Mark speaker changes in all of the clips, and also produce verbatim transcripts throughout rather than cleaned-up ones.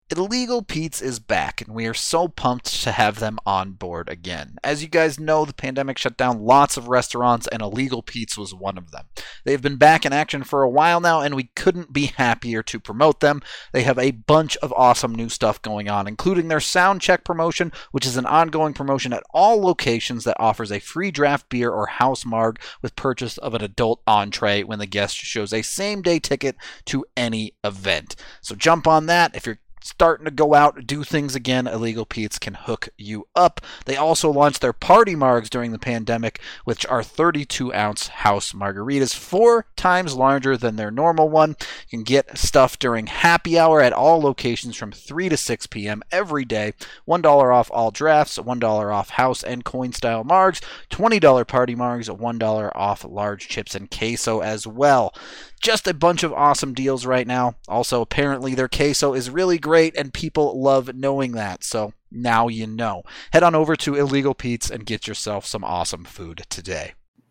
Speaker 1: Illegal Pete's is back, and we are so pumped to have them on board again. As you guys know, the pandemic shut down lots of restaurants, and Illegal Pete's was one of them. They've been back in action for a while now, and we couldn't be happier to promote them. They have a bunch of awesome new stuff going on, including their Sound Check promotion, which is an ongoing promotion at all locations that offers a free draft beer or house marg with purchase of an adult entree when the guest shows a same-day ticket to any event. So jump on that if you're starting to go out and do things again. Illegal Pete's can hook you up. They also launched their party margs during the pandemic, which are thirty-two ounce house margaritas, four times larger than their normal one. You can get stuff during happy hour at all locations from three to six p.m. every day. one dollar off all drafts, one dollar off house and coin style margs, twenty dollars party margs, one dollar off large chips and queso as well. Just a bunch of awesome deals right now. Also, apparently their queso is really great and people love knowing that. So now you know. Head on over to Illegal Pete's and get yourself some awesome food today.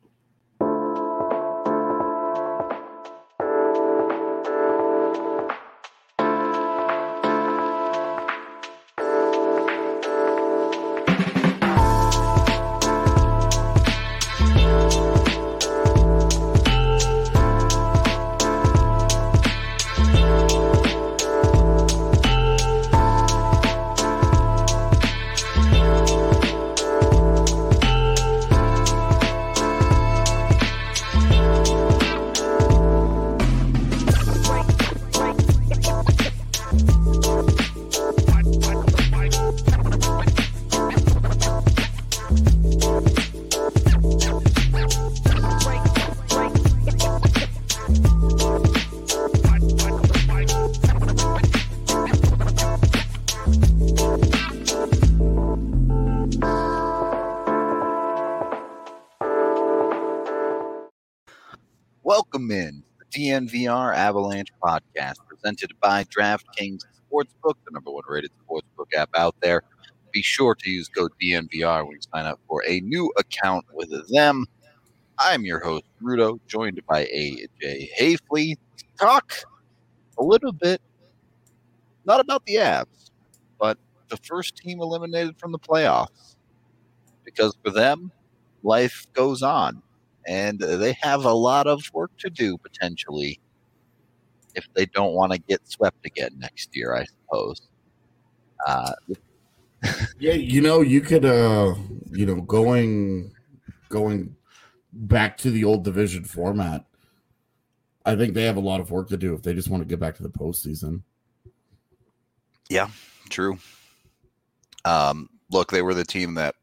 Speaker 2: Welcome in the D N V R Avalanche podcast presented by DraftKings Sportsbook, the number one rated sportsbook app out there. Be sure to use code D N V R when you sign up for a new account with them. I'm your host, Rudo, joined by A J Hayfley. Talk a little bit, not about the Avs, but the first team eliminated from the playoffs. Because for them, life goes on. And they have a lot of work to do, potentially, if they don't want to get swept again next year, I suppose. Uh,
Speaker 3: yeah, you know, you could, uh, you know, going going back to the old division format, I think they have a lot of work to do if they just want to get back to the postseason.
Speaker 2: Yeah, true. Um, look, they were the team that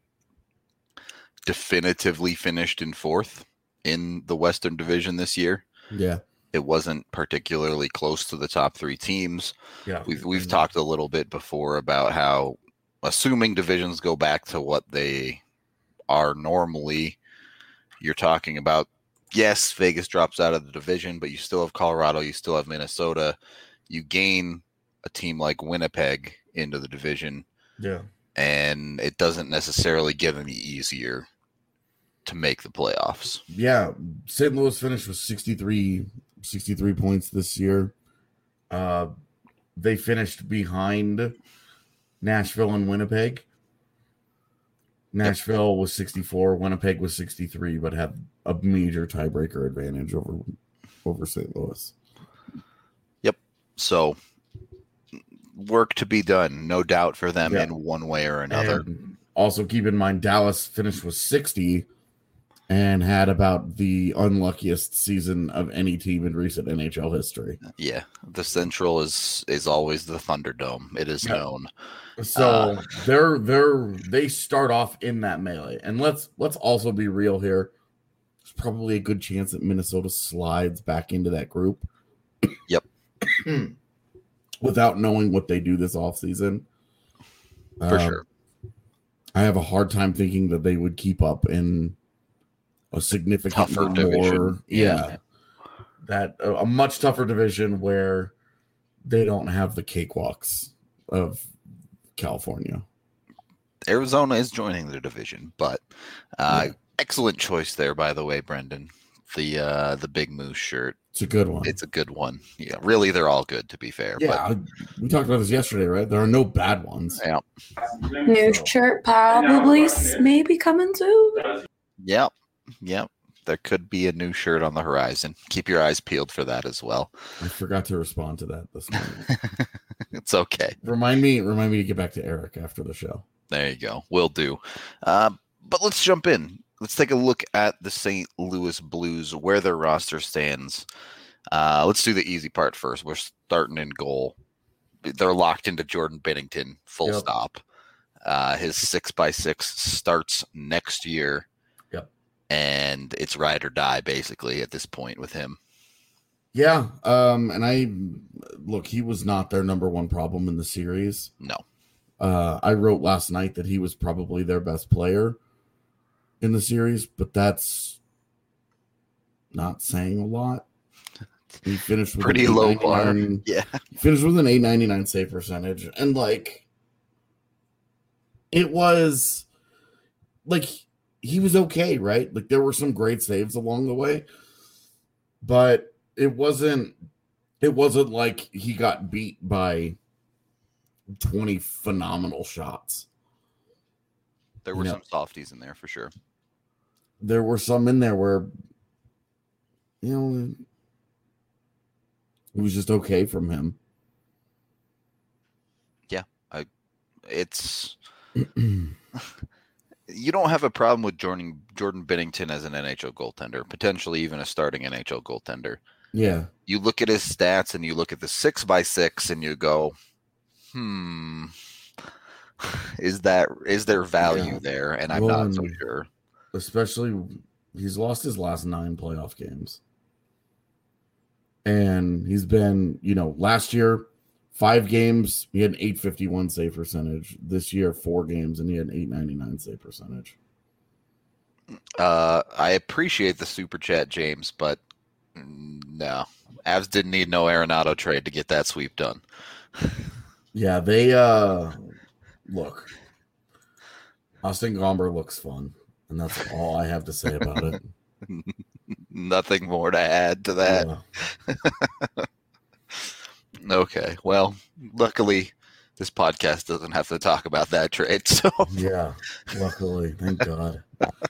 Speaker 2: definitively finished in fourth in the Western Division this year.
Speaker 3: Yeah.
Speaker 2: It wasn't particularly close to the top three teams.
Speaker 3: Yeah.
Speaker 2: We've we've talked a little bit before about how, assuming divisions go back to what they are normally, you're talking about, yes, Vegas drops out of the division, but you still have Colorado, you still have Minnesota. You gain a team like Winnipeg into the division.
Speaker 3: Yeah.
Speaker 2: And it doesn't necessarily get any easier to make the playoffs.
Speaker 3: Yeah, Saint Louis finished with sixty-three, sixty-three points this year. Uh, they finished behind Nashville and Winnipeg. Nashville yep. was sixty-four, Winnipeg was sixty-three, but had a major tiebreaker advantage over over Saint Louis.
Speaker 2: Yep. So work to be done, no doubt, for them
Speaker 3: yeah.
Speaker 2: in one way or another.
Speaker 3: And also keep in mind, Dallas finished with sixty and had about the unluckiest season of any team in recent N H L history.
Speaker 2: Yeah, the Central is is always the Thunderdome. It is yeah. known.
Speaker 3: So uh, they're they're they start off in that melee, and let's let's also be real here. There's probably a good chance that Minnesota slides back into that group.
Speaker 2: Yep.
Speaker 3: Without knowing what they do this offseason.
Speaker 2: For uh, sure.
Speaker 3: I have a hard time thinking that they would keep up in a significant
Speaker 2: tougher
Speaker 3: more,
Speaker 2: division.
Speaker 3: Yeah. yeah that uh, a much tougher division where they don't have the cakewalks of California.
Speaker 2: Arizona is joining the division, but uh, yeah. excellent choice there, by the way, Brendan. the uh, the Big Moose shirt.
Speaker 3: It's a good one.
Speaker 2: It's a good one. Yeah, really, they're all good, to be fair.
Speaker 3: Yeah,
Speaker 2: but,
Speaker 3: we talked about this yesterday, right? There are no bad ones.
Speaker 2: Yeah.
Speaker 4: New shirt probably s- maybe coming soon.
Speaker 2: Yep. Yep. There could be a new shirt on the horizon. Keep your eyes peeled for that as well.
Speaker 3: I forgot to respond to that this morning.
Speaker 2: It's okay.
Speaker 3: Remind me, remind me to get back to Eric after the show.
Speaker 2: There you go. Will do. Uh, but let's jump in. Let's take a look at the Saint Louis Blues, where their roster stands. Uh, let's do the easy part first. We're starting in goal. They're locked into Jordan Binnington, full
Speaker 3: Yep.
Speaker 2: stop. Uh, his six by six starts next year.
Speaker 3: Yep.
Speaker 2: And it's ride or die, basically, at this point with him.
Speaker 3: Yeah. Um, and I look, he was not their number one problem in the series.
Speaker 2: No.
Speaker 3: Uh, I wrote last night that he was probably their best player in the series, but that's not saying a lot. He finished with
Speaker 2: Pretty
Speaker 3: an
Speaker 2: low
Speaker 3: eight ninety-nine
Speaker 2: bar. Yeah.
Speaker 3: He finished with an eight ninety-nine save percentage, and like it was like he was okay, right? Like there were some great saves along the way, but it wasn't it wasn't like he got beat by twenty phenomenal shots.
Speaker 2: There were
Speaker 3: Yeah.
Speaker 2: some softies in there for sure.
Speaker 3: There were some in there where, you know, it was just okay from him.
Speaker 2: It's you don't have a problem with Jordan Jordan Binnington as an N H L goaltender, potentially even a starting N H L goaltender.
Speaker 3: Yeah.
Speaker 2: You look at his stats and you look at the six by six and you go, hmm, is that is there value
Speaker 3: Yeah.
Speaker 2: there? And I'm
Speaker 3: Well,
Speaker 2: not so
Speaker 3: and-
Speaker 2: sure.
Speaker 3: Especially, he's lost his last nine playoff games. And he's been, you know, last year, five games, he had an eight fifty-one save percentage. This year, four games, and he had an eight ninety-nine save percentage.
Speaker 2: Uh, I appreciate the super chat, James, but mm, no, Avs didn't need no Arenado trade to get that sweep done.
Speaker 3: Yeah, they, uh, look, Austin Gomber looks fun. And that's all I have to say about it.
Speaker 2: Nothing more to add to that.
Speaker 3: Yeah.
Speaker 2: Okay, well, luckily this podcast doesn't have to talk about that trade. So,
Speaker 3: Yeah, luckily, thank God.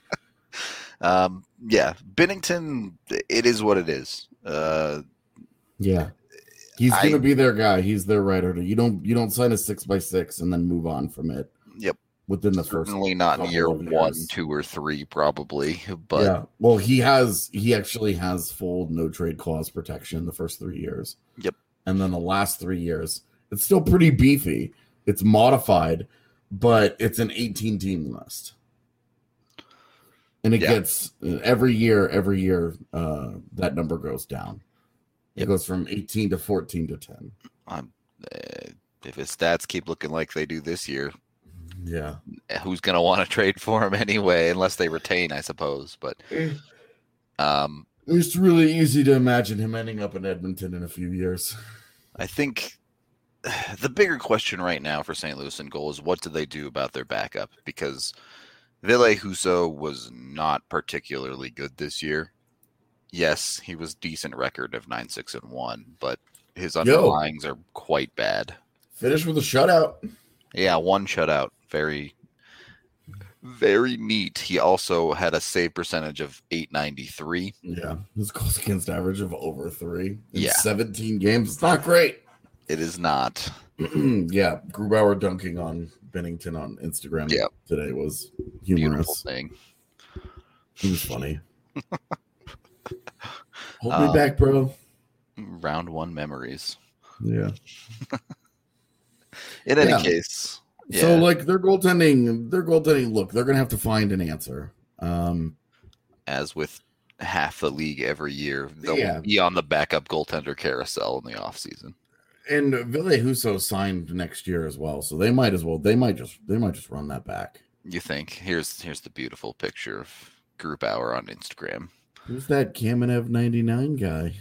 Speaker 2: um, yeah, Binnington, it is what it is. Uh,
Speaker 3: Yeah, he's
Speaker 2: I-
Speaker 3: gonna be their guy. He's their writer. You don't you don't sign a six by six and then move on from it.
Speaker 2: Yep.
Speaker 3: Within the first,
Speaker 2: certainly not in
Speaker 3: couple
Speaker 2: year
Speaker 3: of
Speaker 2: one,
Speaker 3: years.
Speaker 2: two, or three, probably. But
Speaker 3: yeah. Well, he has he actually has full no trade clause protection the first three years.
Speaker 2: Yep.
Speaker 3: And then the last three years, it's still pretty beefy. It's modified, but it's an eighteen team list. And it
Speaker 2: Yeah.
Speaker 3: gets every year, every year, uh, that number goes down. It
Speaker 2: Yep.
Speaker 3: goes from eighteen to fourteen to ten.
Speaker 2: um, uh, if his stats keep looking like they do this year,
Speaker 3: Yeah.
Speaker 2: who's going to want to trade for him anyway, unless they retain, I suppose. But um,
Speaker 3: It's really easy to imagine him ending up in Edmonton in a few years.
Speaker 2: I think the bigger question right now for Saint Louis in goal is what do they do about their backup? Because Ville Husso was not particularly good this year. Yes, he was decent record of nine six and one, but his underlyings are quite bad.
Speaker 3: Finish with a shutout.
Speaker 2: Yeah, one shutout. Very, very neat. He also had a save percentage of eight ninety-three.
Speaker 3: Yeah. His goals against average of over three in
Speaker 2: Yeah.
Speaker 3: seventeen games. It's not great.
Speaker 2: It is not.
Speaker 3: Yeah. Grubauer dunking on Bennington on Instagram
Speaker 2: Yeah.
Speaker 3: today was
Speaker 2: Beautiful
Speaker 3: humorous.
Speaker 2: thing.
Speaker 3: He was funny. Hold
Speaker 2: Um,
Speaker 3: me back, bro.
Speaker 2: Round one memories.
Speaker 3: Yeah.
Speaker 2: In any
Speaker 3: Yeah.
Speaker 2: case, yeah.
Speaker 3: So like their goaltending, their goaltending. Look, they're gonna have to find an answer. Um,
Speaker 2: as with half the league every year, they'll
Speaker 3: Yeah.
Speaker 2: be on the backup goaltender carousel in the offseason.
Speaker 3: and Ville Husso signed next year as well, so they might as well. They might just. They might just run that back.
Speaker 2: You think here's here's the beautiful picture of Group Hour on Instagram.
Speaker 3: Who's that Kamenev ninety-nine guy?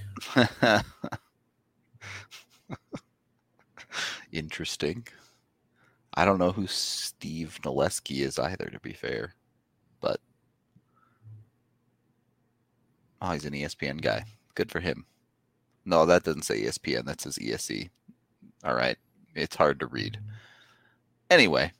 Speaker 2: Interesting. I don't know who Steve Noleski is either, to be fair, but Oh, he's an E S P N guy. Good for him. No, that doesn't say E S P N. That says E S C. All right. It's hard to read. Anyway.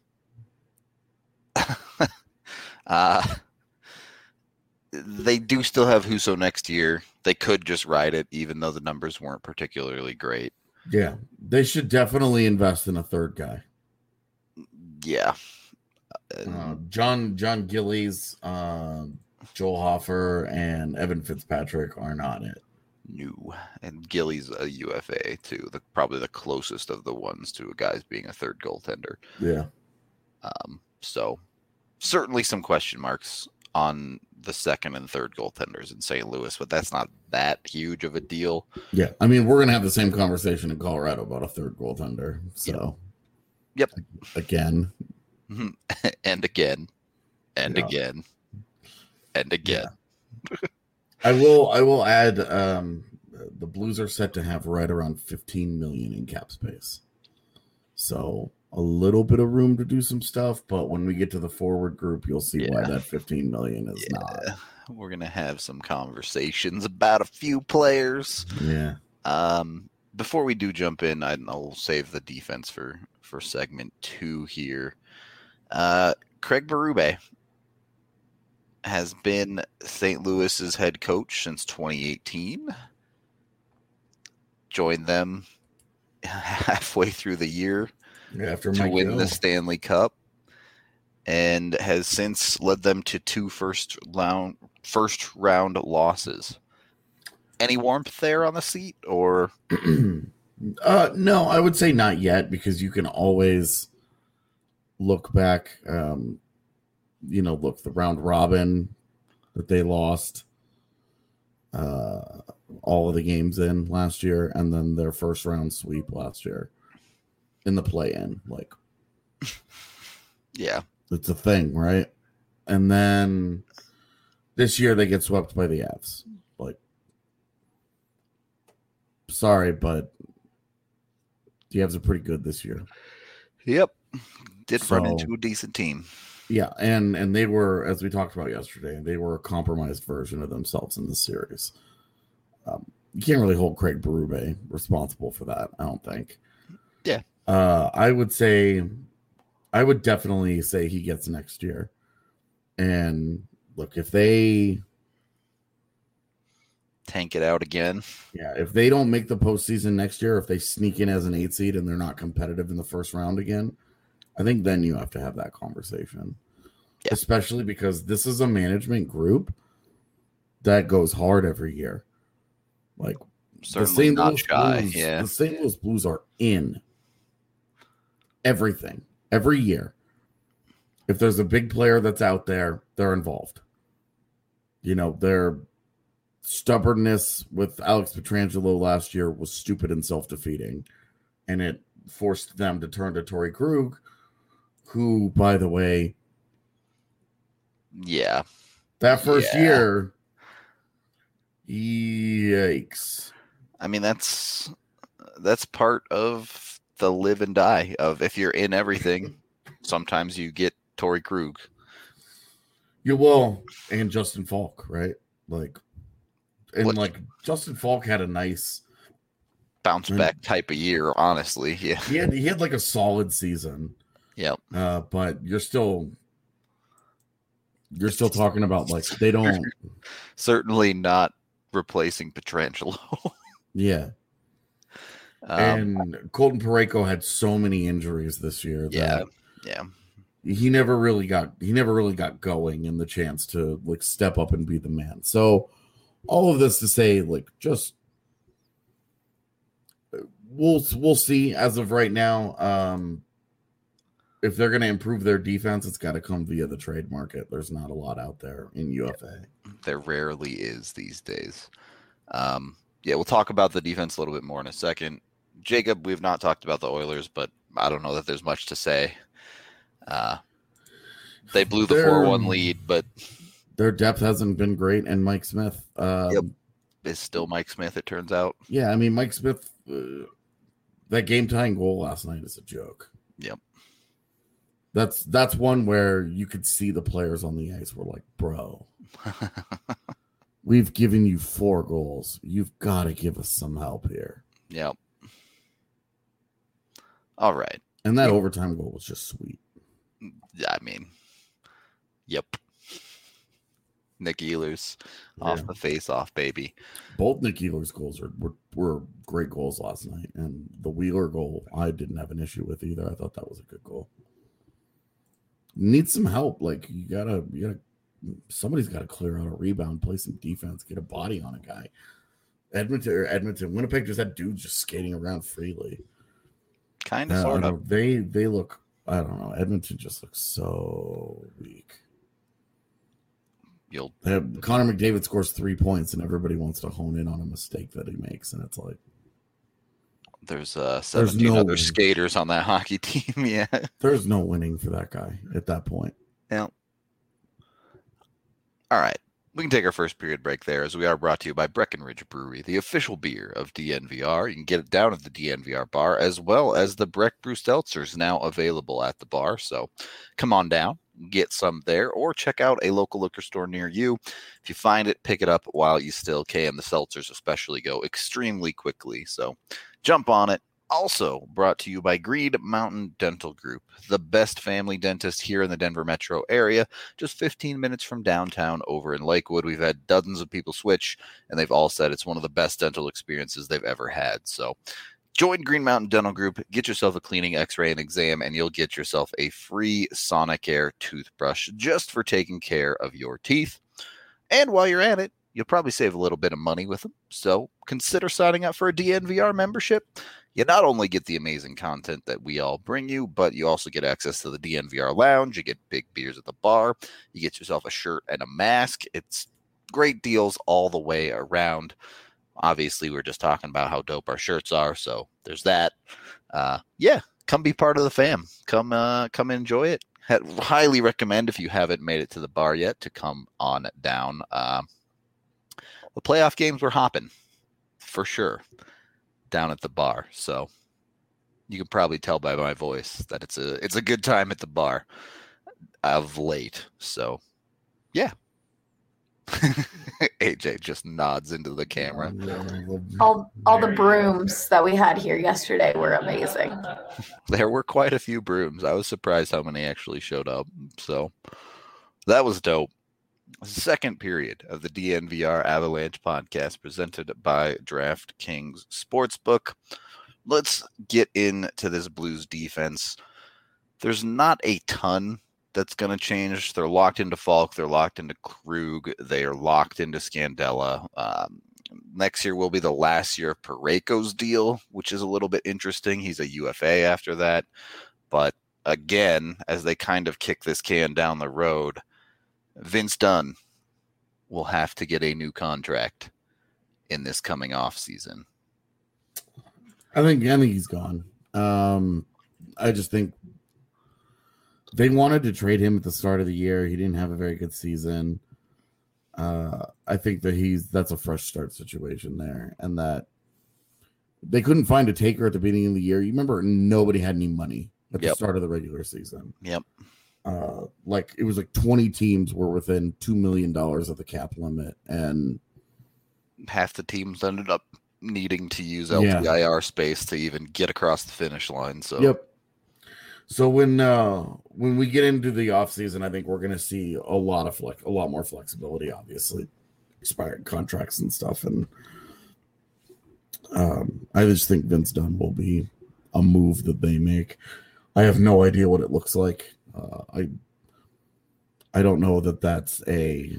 Speaker 2: uh, they do still have Huso next year. They could just ride it, even though the numbers weren't particularly great.
Speaker 3: Yeah. They should definitely invest in a third guy.
Speaker 2: Yeah.
Speaker 3: Uh, John John Gillies, uh, Joel Hoffer, and Evan Fitzpatrick are not it.
Speaker 2: New. And Gilly's a U F A, too. The, probably the closest of the ones to a guy's being a third goaltender.
Speaker 3: Yeah.
Speaker 2: Um, so, certainly some question marks on the second and third goaltenders in Saint Louis, but that's not that huge of a deal.
Speaker 3: Yeah. I mean, we're going to have the same conversation in Colorado about a third goaltender. So,
Speaker 2: yep.
Speaker 3: Again.
Speaker 2: and again. And
Speaker 3: Yeah.
Speaker 2: again. And again.
Speaker 3: Yeah. I will I will add um, the Blues are set to have right around fifteen million in cap space. So a little bit of room to do some stuff, but when we get to the forward group, you'll see
Speaker 2: Yeah.
Speaker 3: why that fifteen million is
Speaker 2: Yeah.
Speaker 3: not.
Speaker 2: We're going to have some conversations about a few players.
Speaker 3: Yeah.
Speaker 2: Um, before we do jump in, I, I'll save the defense for, for segment two here. Uh, Craig Berube has been Saint Louis's head coach since twenty eighteen. Joined them halfway through the year
Speaker 3: After
Speaker 2: to
Speaker 3: Mike
Speaker 2: win
Speaker 3: Gill.
Speaker 2: the Stanley Cup, and has since led them to two first round first round losses. Any warmth there on the seat, or
Speaker 3: uh, no, I would say not yet, because you can always look back. Um, you know, look, the round robin that they lost uh, all of the games in last year, and then their first round sweep last year in the play-in. Like,
Speaker 2: yeah,
Speaker 3: it's a thing, right? And then this year they get swept by the Avs. Like, sorry, but the Avs are pretty good this year.
Speaker 2: yep, did run
Speaker 3: So-
Speaker 2: into a decent team.
Speaker 3: Yeah, and and they were, as we talked about yesterday, they were a compromised version of themselves in this series. Um, you can't really hold Craig Berube responsible for that, I don't think.
Speaker 2: Yeah.
Speaker 3: Uh, I would say, I would definitely say he gets next year. And look, if they,
Speaker 2: Tank it out again.
Speaker 3: yeah, if they don't make the postseason next year, if they sneak in as an eight seed and they're not competitive in the first round again, I think then you have to have that conversation.
Speaker 2: Yeah.
Speaker 3: Especially because this is a management group that goes hard every year. Like,
Speaker 2: Certainly not shy.
Speaker 3: Blues,
Speaker 2: Yeah,
Speaker 3: the Saint Louis Blues are in everything every year. If there's a big player that's out there, they're involved. You know, their stubbornness with Alex Pietrangelo last year was stupid and self-defeating, and it forced them to turn to Torrey Krug, who, by the way,
Speaker 2: yeah.
Speaker 3: that first
Speaker 2: Yeah.
Speaker 3: year, yikes.
Speaker 2: I mean, that's that's part of the live and die of if you're in everything. Sometimes you get Torrey Krug.
Speaker 3: You will, and Justin Falk, right? Like, and
Speaker 2: What-
Speaker 3: like Justin Falk had a nice,
Speaker 2: Bounce
Speaker 3: Mm.
Speaker 2: back type of year, honestly. Yeah.
Speaker 3: he had he had like a solid season,
Speaker 2: Yep.
Speaker 3: uh, but you're still, you're still talking about like they don't,
Speaker 2: Certainly not replacing Pietrangelo.
Speaker 3: yeah.
Speaker 2: um,
Speaker 3: And Colton Parayko had so many injuries this year
Speaker 2: yeah.
Speaker 3: that
Speaker 2: Yeah.
Speaker 3: he never really got he never really got going in the chance to like step up and be the man. So all of this to say, like, just we'll we'll see as of right now. Um if they're going to improve their defense, it's got to come via the trade market. There's not a lot out there in U F A.
Speaker 2: There rarely is these days. Um, yeah, we'll talk about the defense a little bit more in a second. Jacob, we've not talked about the Oilers, but I don't know that there's much to say. Uh, they blew the
Speaker 3: They're-
Speaker 2: four one lead, but
Speaker 3: Their depth hasn't been great, and Mike Smith. Um,
Speaker 2: Yep. it's still Mike Smith, it turns out.
Speaker 3: Yeah, I mean, Mike Smith, uh, that game tying goal last night is a joke.
Speaker 2: Yep.
Speaker 3: That's that's one where you could see the players on the ice were like, bro, We've given you four goals. You've got to give us some help here.
Speaker 2: Yep. All right.
Speaker 3: And that
Speaker 2: Yeah.
Speaker 3: overtime goal was just sweet.
Speaker 2: I mean, yep. Nick Ehlers off
Speaker 3: Yeah.
Speaker 2: the face-off, baby.
Speaker 3: Both Nick Ehlers goals are, were, were great goals last night. And the Wheeler goal, I didn't have an issue with either. I thought that was a good goal. Need some help. Like, you got to, you got to, somebody's got to clear out a rebound, play some defense, get a body on a guy. Edmonton or Edmonton, Winnipeg just had dudes just skating around freely.
Speaker 2: Kind of,
Speaker 3: Uh,
Speaker 2: sort
Speaker 3: I
Speaker 2: of.
Speaker 3: don't- They they look. I don't know. Edmonton just looks so weak.
Speaker 2: You'll
Speaker 3: They have, Connor McDavid scores three points, and everybody wants to hone in on a mistake that he makes, and it's like
Speaker 2: There's uh seventeen
Speaker 3: no
Speaker 2: other
Speaker 3: way.
Speaker 2: skaters on that hockey team. Yeah.
Speaker 3: there's no winning for that guy at that point.
Speaker 2: Yeah. All right. We can take our first period break there, as we are brought to you by Breckenridge Brewery, the official beer of D N V R. You can get it down at the D N V R bar, as well as the Breck Brew Seltzers now available at the bar. So come on down, get some there, or check out a local liquor store near you. If you find it, pick it up while you still can. The seltzers especially go extremely quickly, so jump on it. Also brought to you by Green Mountain Dental Group, the best family dentist here in the Denver metro area, just fifteen minutes from downtown over in Lakewood. We've had dozens of people switch, and they've all said it's one of the best dental experiences they've ever had. So join Green Mountain Dental Group, get yourself a cleaning, x-ray, and exam, and you'll get yourself a free Sonicare toothbrush just for taking care of your teeth. And while you're at it, you'll probably save a little bit of money with them. So consider signing up for a D N V R membership. You not only get the amazing content that we all bring you, but you also get access to the D N V R lounge. You get big beers at the bar. You get yourself a shirt and a mask. It's great deals all the way around. Obviously, we're just talking about how dope our shirts are, so there's that. Uh, yeah, come be part of the fam. Come, uh, come enjoy it. Had, highly recommend, if you haven't made it to the bar yet, to come on down. Uh, the playoff games were hopping, for sure, down at the bar. So you can probably tell by my voice that it's a it's a good time at the bar of late. So yeah. A J just nods into the camera.
Speaker 4: All all the brooms that we had here yesterday were amazing.
Speaker 2: There were quite a few brooms. I was surprised how many actually showed up. So that was dope. Second period of the D N V R Avalanche podcast presented by DraftKings Sportsbook. Let's get into this Blues defense. There's not a ton that's going to change. They're locked into Falk. They're locked into Krug. They are locked into Scandella. Um, next year will be the last year of Parayko's deal, which is a little bit interesting. He's a U F A after that. But again, as they kind of kick this can down the road, Vince Dunn will have to get a new contract in this coming off season.
Speaker 3: I think I think he's gone. Um, I just think they wanted to trade him at the start of the year. He didn't have a very good season. Uh, I think that he's that's a fresh start situation there, and that they couldn't find a taker at the beginning of the year. You remember, nobody had any money at
Speaker 2: Yep.
Speaker 3: the start of the regular season.
Speaker 2: Yep.
Speaker 3: Uh, like it was like twenty teams were within two million dollars of the cap limit, and
Speaker 2: Half the teams ended up needing to use
Speaker 3: Yeah.
Speaker 2: L T I R space to even get across the finish line. So
Speaker 3: yep. So when uh, when we get into the offseason, I think we're going to see a lot of flex, a lot more flexibility. Obviously, expired contracts and stuff, and um, I just think Vince Dunn will be a move that they make. I have no idea what it looks like. Uh, I I don't know that that's a.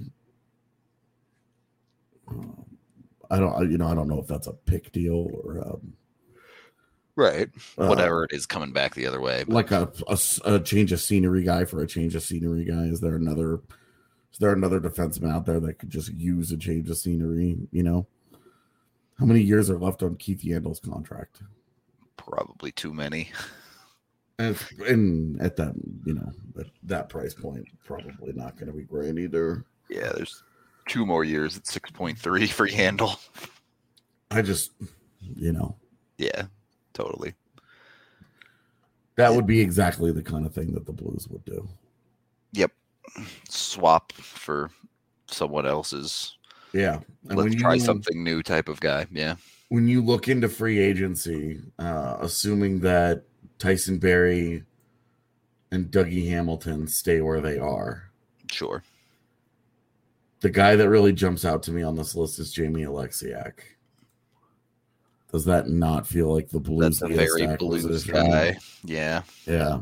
Speaker 3: Um, I don't you know I don't know if that's a pick deal or um,
Speaker 2: right,
Speaker 3: uh,
Speaker 2: whatever it is coming back the other way. But
Speaker 3: like a, a a change of scenery guy for a change of scenery guy. Is there another? Is there another defenseman out there that could just use a change of scenery? You know, how many years are left on Keith Yandel's contract?
Speaker 2: probably too many.
Speaker 3: And, and at that, you know, at that price point, probably not going to be great either.
Speaker 2: Yeah, there's two more years at six point three for Yandel.
Speaker 3: I just, you know,
Speaker 2: Yeah, totally.
Speaker 3: that would be exactly the kind of thing that the Blues would do.
Speaker 2: Yep. Swap for someone else's
Speaker 3: Yeah. And
Speaker 2: let's
Speaker 3: when
Speaker 2: try
Speaker 3: you,
Speaker 2: something new type of guy. Yeah.
Speaker 3: When you look into free agency, uh, assuming that Tyson Berry and Dougie Hamilton stay where they are,
Speaker 2: Sure.
Speaker 3: the guy that really jumps out to me on this list is Jamie Alexiak. Does that not feel like the Blues?
Speaker 2: That's a very Blues guy. Yeah.
Speaker 3: Yeah.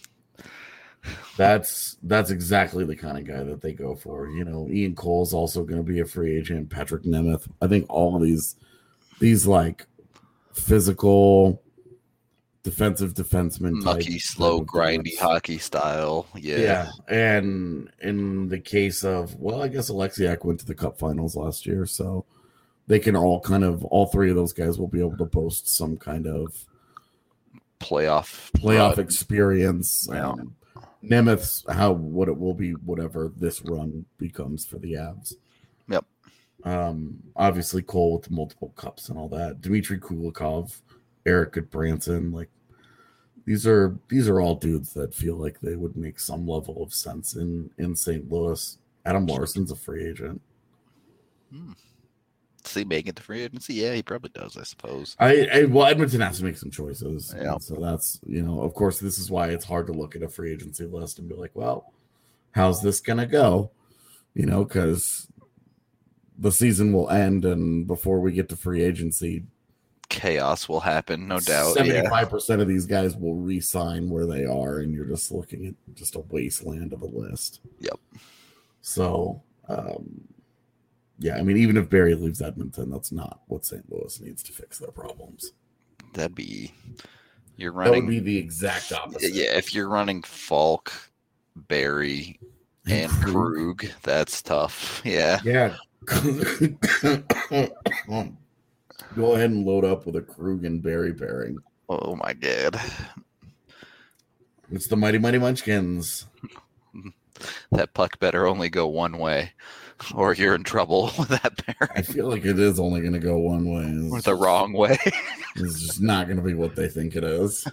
Speaker 3: That's that's exactly the kind of guy that they go for. You know, Ian Cole's also going to be a free agent. Patrick Nemeth. I think all of these these like physical defensive defenseman type,
Speaker 2: mucky, slow,
Speaker 3: type
Speaker 2: grindy
Speaker 3: defense.
Speaker 2: hockey style. Yeah.
Speaker 3: Yeah. And in the case of, well, I guess Alexiak went to the Cup Finals last year, so they can all kind of, all three of those guys will be able to boast some kind of
Speaker 2: playoff
Speaker 3: playoff
Speaker 2: run.
Speaker 3: experience.
Speaker 2: Yeah.
Speaker 3: Um, Nemeth's how what it will be, whatever this run becomes for the Avs.
Speaker 2: Yep.
Speaker 3: Um, obviously Cole with the multiple cups and all that. Dmitry Kulikov, Eric Goodbranson, like these are these are all dudes that feel like they would make some level of sense in in Saint Louis. Adam Larson's a free agent.
Speaker 2: Hmm. Does he make it to free agency? Yeah, he probably does, I suppose.
Speaker 3: I, I well, Edmonton has to make some choices.
Speaker 2: Yeah.
Speaker 3: And so that's, you know, of course, this is why it's hard to look at a free agency list and be like, well, how's this gonna go? You know, because the season will end, and before we get to free agency,
Speaker 2: chaos will happen, no doubt.
Speaker 3: seventy-five percent of these guys will re-sign where they are, and you're just looking at just a wasteland of a list.
Speaker 2: Yep.
Speaker 3: So, um, yeah, I mean, even if Barry leaves Edmonton, that's not what Saint Louis needs to fix their problems.
Speaker 2: That'd be you're
Speaker 3: That
Speaker 2: running.
Speaker 3: would be the exact opposite.
Speaker 2: Yeah, if you're running Falk, Barry, and Krug, that's tough. Yeah.
Speaker 3: Yeah. Go ahead and load up with a Krug and Barry pairing.
Speaker 2: Oh my god.
Speaker 3: It's the Mighty Mighty Munchkins.
Speaker 2: That puck better only go one way, or you're in trouble with that
Speaker 3: I
Speaker 2: pairing.
Speaker 3: feel like it is only going to go one way. It's
Speaker 2: Or the
Speaker 3: just-
Speaker 2: wrong way.
Speaker 3: It's just not going to be what they think it is.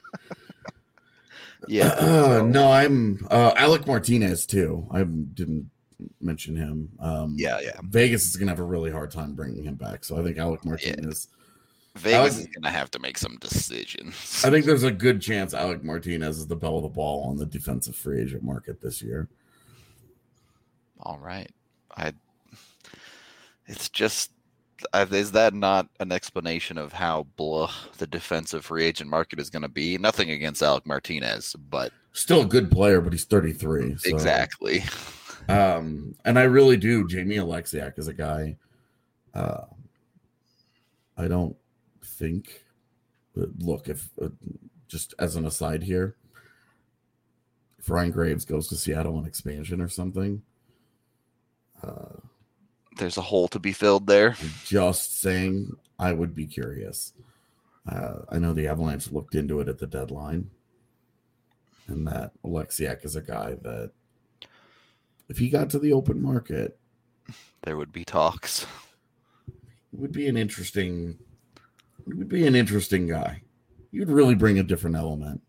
Speaker 2: Yeah.
Speaker 3: Uh, no, I'm uh, Alec Martinez too. I didn't mention him. Um,
Speaker 2: Yeah, yeah.
Speaker 3: Vegas is going to have a really hard time bringing him back. So I think Alec Martinez.
Speaker 2: Vegas
Speaker 3: Alec-
Speaker 2: is gonna have to make some decisions.
Speaker 3: I think there's a good chance Alec Martinez is the belle of the ball on the defensive free agent market this year.
Speaker 2: All right. I. It's just. I, is that not an explanation of how blah the defensive free agent market is going to be? Nothing against Alec Martinez, but
Speaker 3: Still a good player, but he's thirty-three. So,
Speaker 2: exactly.
Speaker 3: Um, and I really do. Jamie Alexiak is a guy. Uh, I don't think. Look, if uh, just as an aside here, if Ryan Graves goes to Seattle on expansion or something, uh,
Speaker 2: There's a hole to be filled there.
Speaker 3: just saying, I would be curious. Uh, I know the Avalanche looked into it at the deadline, and that Alexiak is a guy that, if he got to the open market,
Speaker 2: There would be talks.
Speaker 3: it would be an interesting. It would be an interesting guy. You'd really bring a different element.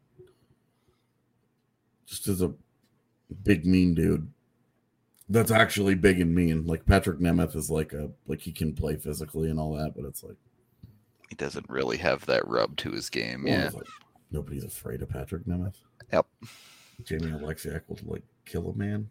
Speaker 3: Just as a big mean dude. That's actually big and mean. Like Patrick Nemeth is like a like he can play physically and all that, but it's like,
Speaker 2: He doesn't really have that rub to his game.
Speaker 3: well,
Speaker 2: Yeah.
Speaker 3: it's like nobody's afraid of Patrick Nemeth.
Speaker 2: Yep.
Speaker 3: Jamie Alexiak will like kill a man.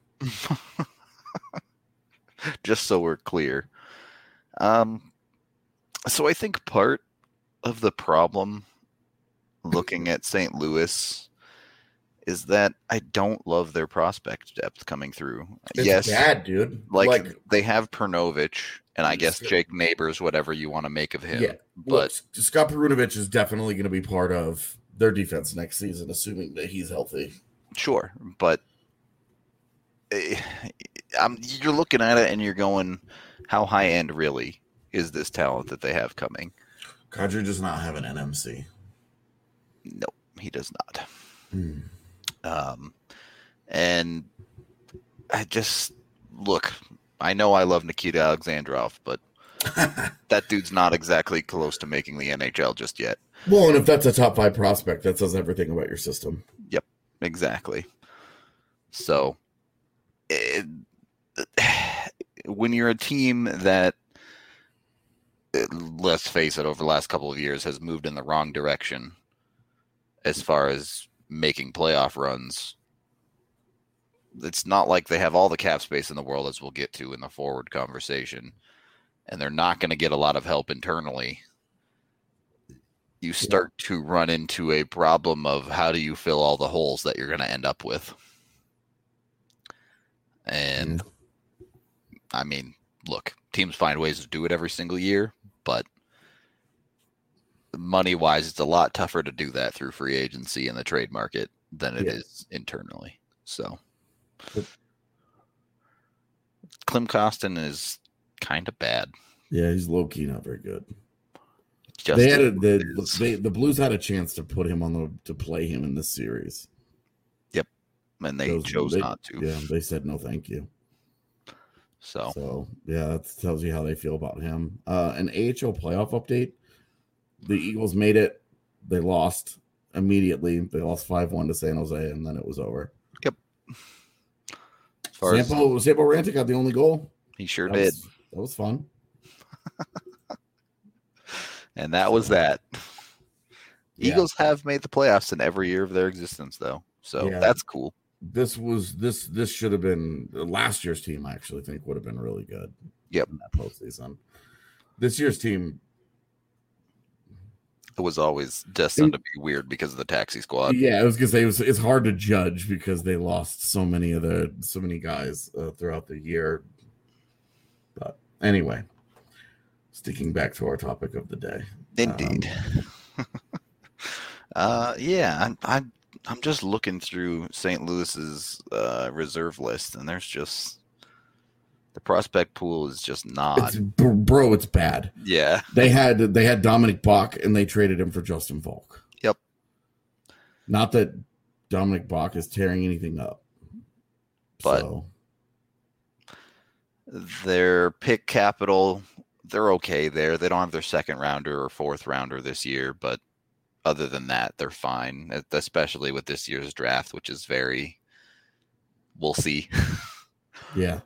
Speaker 2: Just so we're clear. Um, so I think part of the problem looking at Saint Louis is that I don't love their prospect depth coming through.
Speaker 3: It's
Speaker 2: yes,
Speaker 3: bad, dude.
Speaker 2: like,
Speaker 3: like
Speaker 2: they have Pernovich and I guess
Speaker 3: Yes.
Speaker 2: Jake Neighbors, whatever you want to make of him.
Speaker 3: yeah,
Speaker 2: but
Speaker 3: look, Scott Perunovich is definitely going to be part of their defense next season, assuming that he's healthy.
Speaker 2: sure, but eh, I'm, you're looking at it and you're going, how high end really is this talent that they have coming?
Speaker 3: Kadri does not have an N M C.
Speaker 2: No, he does not.
Speaker 3: Hmm.
Speaker 2: Um, and I just look. I know I love Nikita Alexandrov, but that dude's not exactly close to making the N H L just yet.
Speaker 3: Well, and if that's a top five prospect, that says everything about your system.
Speaker 2: Exactly. So, it, when you're a team that, let's face it, over the last couple of years has moved in the wrong direction as far as making playoff runs, it's not like they have all the cap space in the world, as we'll get to in the forward conversation, and they're not going to get a lot of help internally. You start yeah. to run into a problem of how do you fill all the holes that you're going to end up with. And mm. I mean, look, teams find ways to do it every single year, but money wise, it's a lot tougher to do that through free agency and the trade market than it yeah. is internally. So Klim Kostin is kind of bad.
Speaker 3: Yeah, he's low key not very good. Just they had a, the, they, the Blues had a chance to put him on the to play him in this series.
Speaker 2: Yep, and they Those, chose
Speaker 3: they,
Speaker 2: not to.
Speaker 3: Yeah, they said no, thank you.
Speaker 2: So,
Speaker 3: so yeah, that tells you how they feel about him. Uh, an A H L playoff update: the Eagles made it. They lost immediately. They lost five one to San Jose, and then it was over.
Speaker 2: Yep.
Speaker 3: Sampo Sampo Ranta got the only goal.
Speaker 2: He sure
Speaker 3: that
Speaker 2: did.
Speaker 3: Was, that was fun.
Speaker 2: And that was that. Yeah. Eagles have made the playoffs in every year of their existence, though. So yeah. that's cool.
Speaker 3: This was this this should have been last year's team. I actually think would have been really good.
Speaker 2: Yep.
Speaker 3: In that postseason. This year's team.
Speaker 2: It was always destined it, to be weird because of the taxi squad.
Speaker 3: Yeah, I was gonna say it was. It's hard to judge because they lost so many of the so many guys uh, throughout the year. But anyway. Sticking back to our topic of the day.
Speaker 2: Indeed. Um, uh, yeah, I'm, I'm I'm just looking through Saint Louis's uh, reserve list, and there's just the prospect pool is just not.
Speaker 3: It's, bro, it's bad.
Speaker 2: Yeah,
Speaker 3: they had they had Dominic Bach, and they traded him for Justin Falk.
Speaker 2: Yep.
Speaker 3: Not that Dominic Bach is tearing anything up,
Speaker 2: but
Speaker 3: so.
Speaker 2: Their pick capital. They're okay there. They don't have their second rounder or fourth rounder this year, but other than that, they're fine, especially with this year's draft, which is very, we'll see.
Speaker 3: Yeah.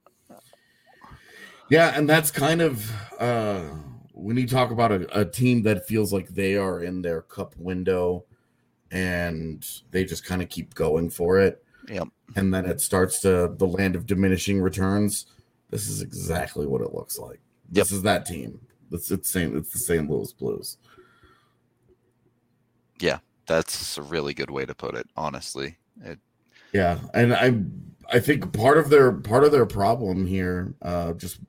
Speaker 3: Yeah, and that's kind of, uh, when you talk about a, a team that feels like they are in their cup window and they just kind of keep going for it.
Speaker 2: Yep.
Speaker 3: And then it starts to the land of diminishing returns. This is exactly what it looks like. This yep. is that team. It's it's same. It's the Saint Louis Blues.
Speaker 2: Yeah, that's a really good way to put it. Honestly, it...
Speaker 3: yeah, and I I think part of their part of their problem here, uh, just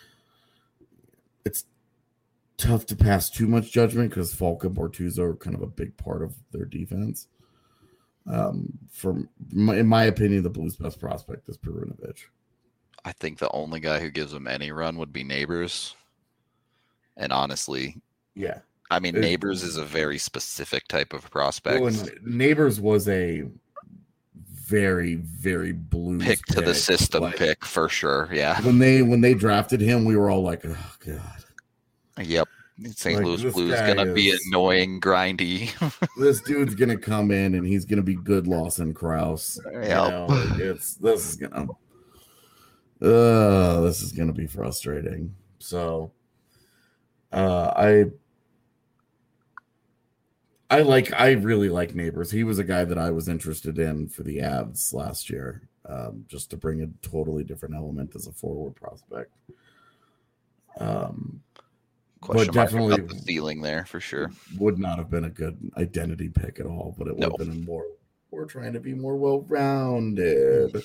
Speaker 3: it's tough to pass too much judgment because Falk and Bortuzzo are kind of a big part of their defense. Um, from my, in my opinion, the Blues' best prospect is Perunovic.
Speaker 2: I think the only guy who gives them any run would be Neighbors. And honestly,
Speaker 3: yeah.
Speaker 2: I mean,
Speaker 3: it,
Speaker 2: Neighbors is a very specific type of prospect.
Speaker 3: Well, Neighbors was a very, very Blues
Speaker 2: pick to
Speaker 3: pick.
Speaker 2: the system
Speaker 3: like,
Speaker 2: pick for sure. Yeah.
Speaker 3: When they when they drafted him, we were all like, oh god.
Speaker 2: Yep. Saint
Speaker 3: Like,
Speaker 2: Louis Blues gonna is, be annoying, grindy.
Speaker 3: This dude's gonna come in and he's gonna be good Lawson Krause.
Speaker 2: Yep.
Speaker 3: You know, it's this is gonna Uh, this is going to be frustrating. So, uh, I, I like, I really like Neighbors. He was a guy that I was interested in for the Avs last year, um, just to bring a totally different element as a forward prospect. Um,
Speaker 2: Question
Speaker 3: but definitely
Speaker 2: about the ceiling there for sure.
Speaker 3: Would not have been a good identity pick at all, but it would
Speaker 2: no.
Speaker 3: have been a more, we're trying to be more well-rounded.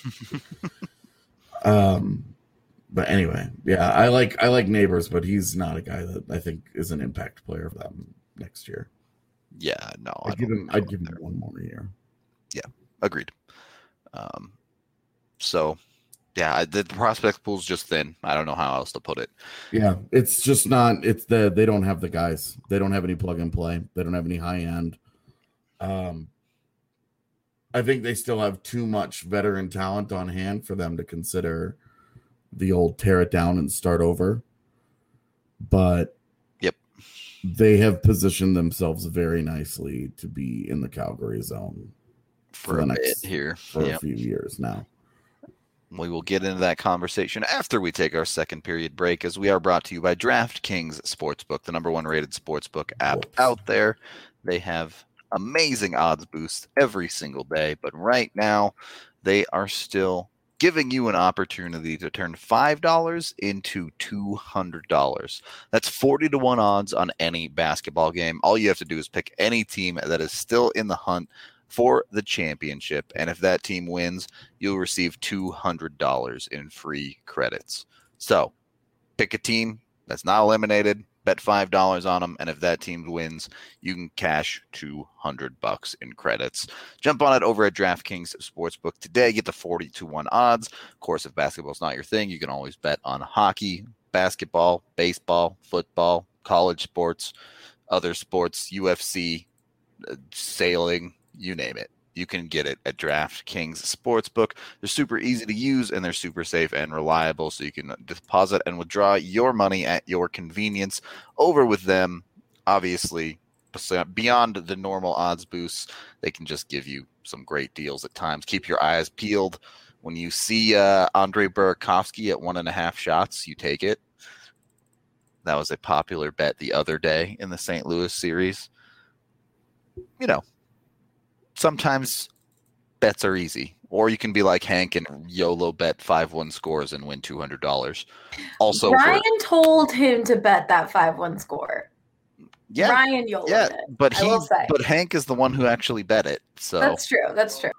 Speaker 3: Um, but anyway, yeah, I like I like Neighbors, but he's not a guy that I think is an impact player for them next year.
Speaker 2: Yeah, no,
Speaker 3: I'd
Speaker 2: I
Speaker 3: give
Speaker 2: don't
Speaker 3: him. I'd give him there. one more year.
Speaker 2: Yeah, agreed. Um, so yeah, the, the prospect pool's just thin. I don't know how else to put it.
Speaker 3: Yeah, it's just not. It's the they don't have the guys. They don't have any plug and play. They don't have any high end. Um. I think they still have too much veteran talent on hand for them to consider the old tear it down and start over. But
Speaker 2: yep,
Speaker 3: they have positioned themselves very nicely to be in the Calgary zone
Speaker 2: for, for a next, bit here
Speaker 3: for
Speaker 2: yep.
Speaker 3: a few years now.
Speaker 2: We will get into that conversation after we take our second period break, as we are brought to you by DraftKings Sportsbook, the number one rated sportsbook app
Speaker 3: Whoops.
Speaker 2: out there. They have amazing odds boosts every single day, but right now they are still giving you an opportunity to turn five dollars into two hundred dollars. That's forty to one odds on any basketball game. All you have to do is pick any team that is still in the hunt for the championship, and if that team wins, you'll receive two hundred dollars in free credits. So pick a team that's not eliminated, bet five dollars on them, and if that team wins, you can cash two hundred bucks in credits. Jump on it over at DraftKings Sportsbook today. Get the forty to one odds. Of course, if basketball's not your thing, you can always bet on hockey, basketball, baseball, football, college sports, other sports, U F C, uh, sailing, you name it. You can get it at DraftKings Sportsbook. They're super easy to use, and they're super safe and reliable, so you can deposit and withdraw your money at your convenience over with them. Obviously, beyond the normal odds boosts, they can just give you some great deals at times. Keep your eyes peeled. When you see uh, Andre Burakovsky at one and a half shots, you take it. That was a popular bet the other day in the Saint Louis series. You know, sometimes bets are easy, or you can be like Hank and YOLO bet five one scores and win two hundred dollars. Also,
Speaker 4: Ryan
Speaker 2: for,
Speaker 4: told him to bet that five one score.
Speaker 2: yeah,
Speaker 4: Ryan YOLO
Speaker 2: yeah,
Speaker 4: it,
Speaker 2: but
Speaker 4: I
Speaker 2: he,
Speaker 4: will say.
Speaker 2: but Hank is the one who actually bet it. So
Speaker 4: That's true. That's true.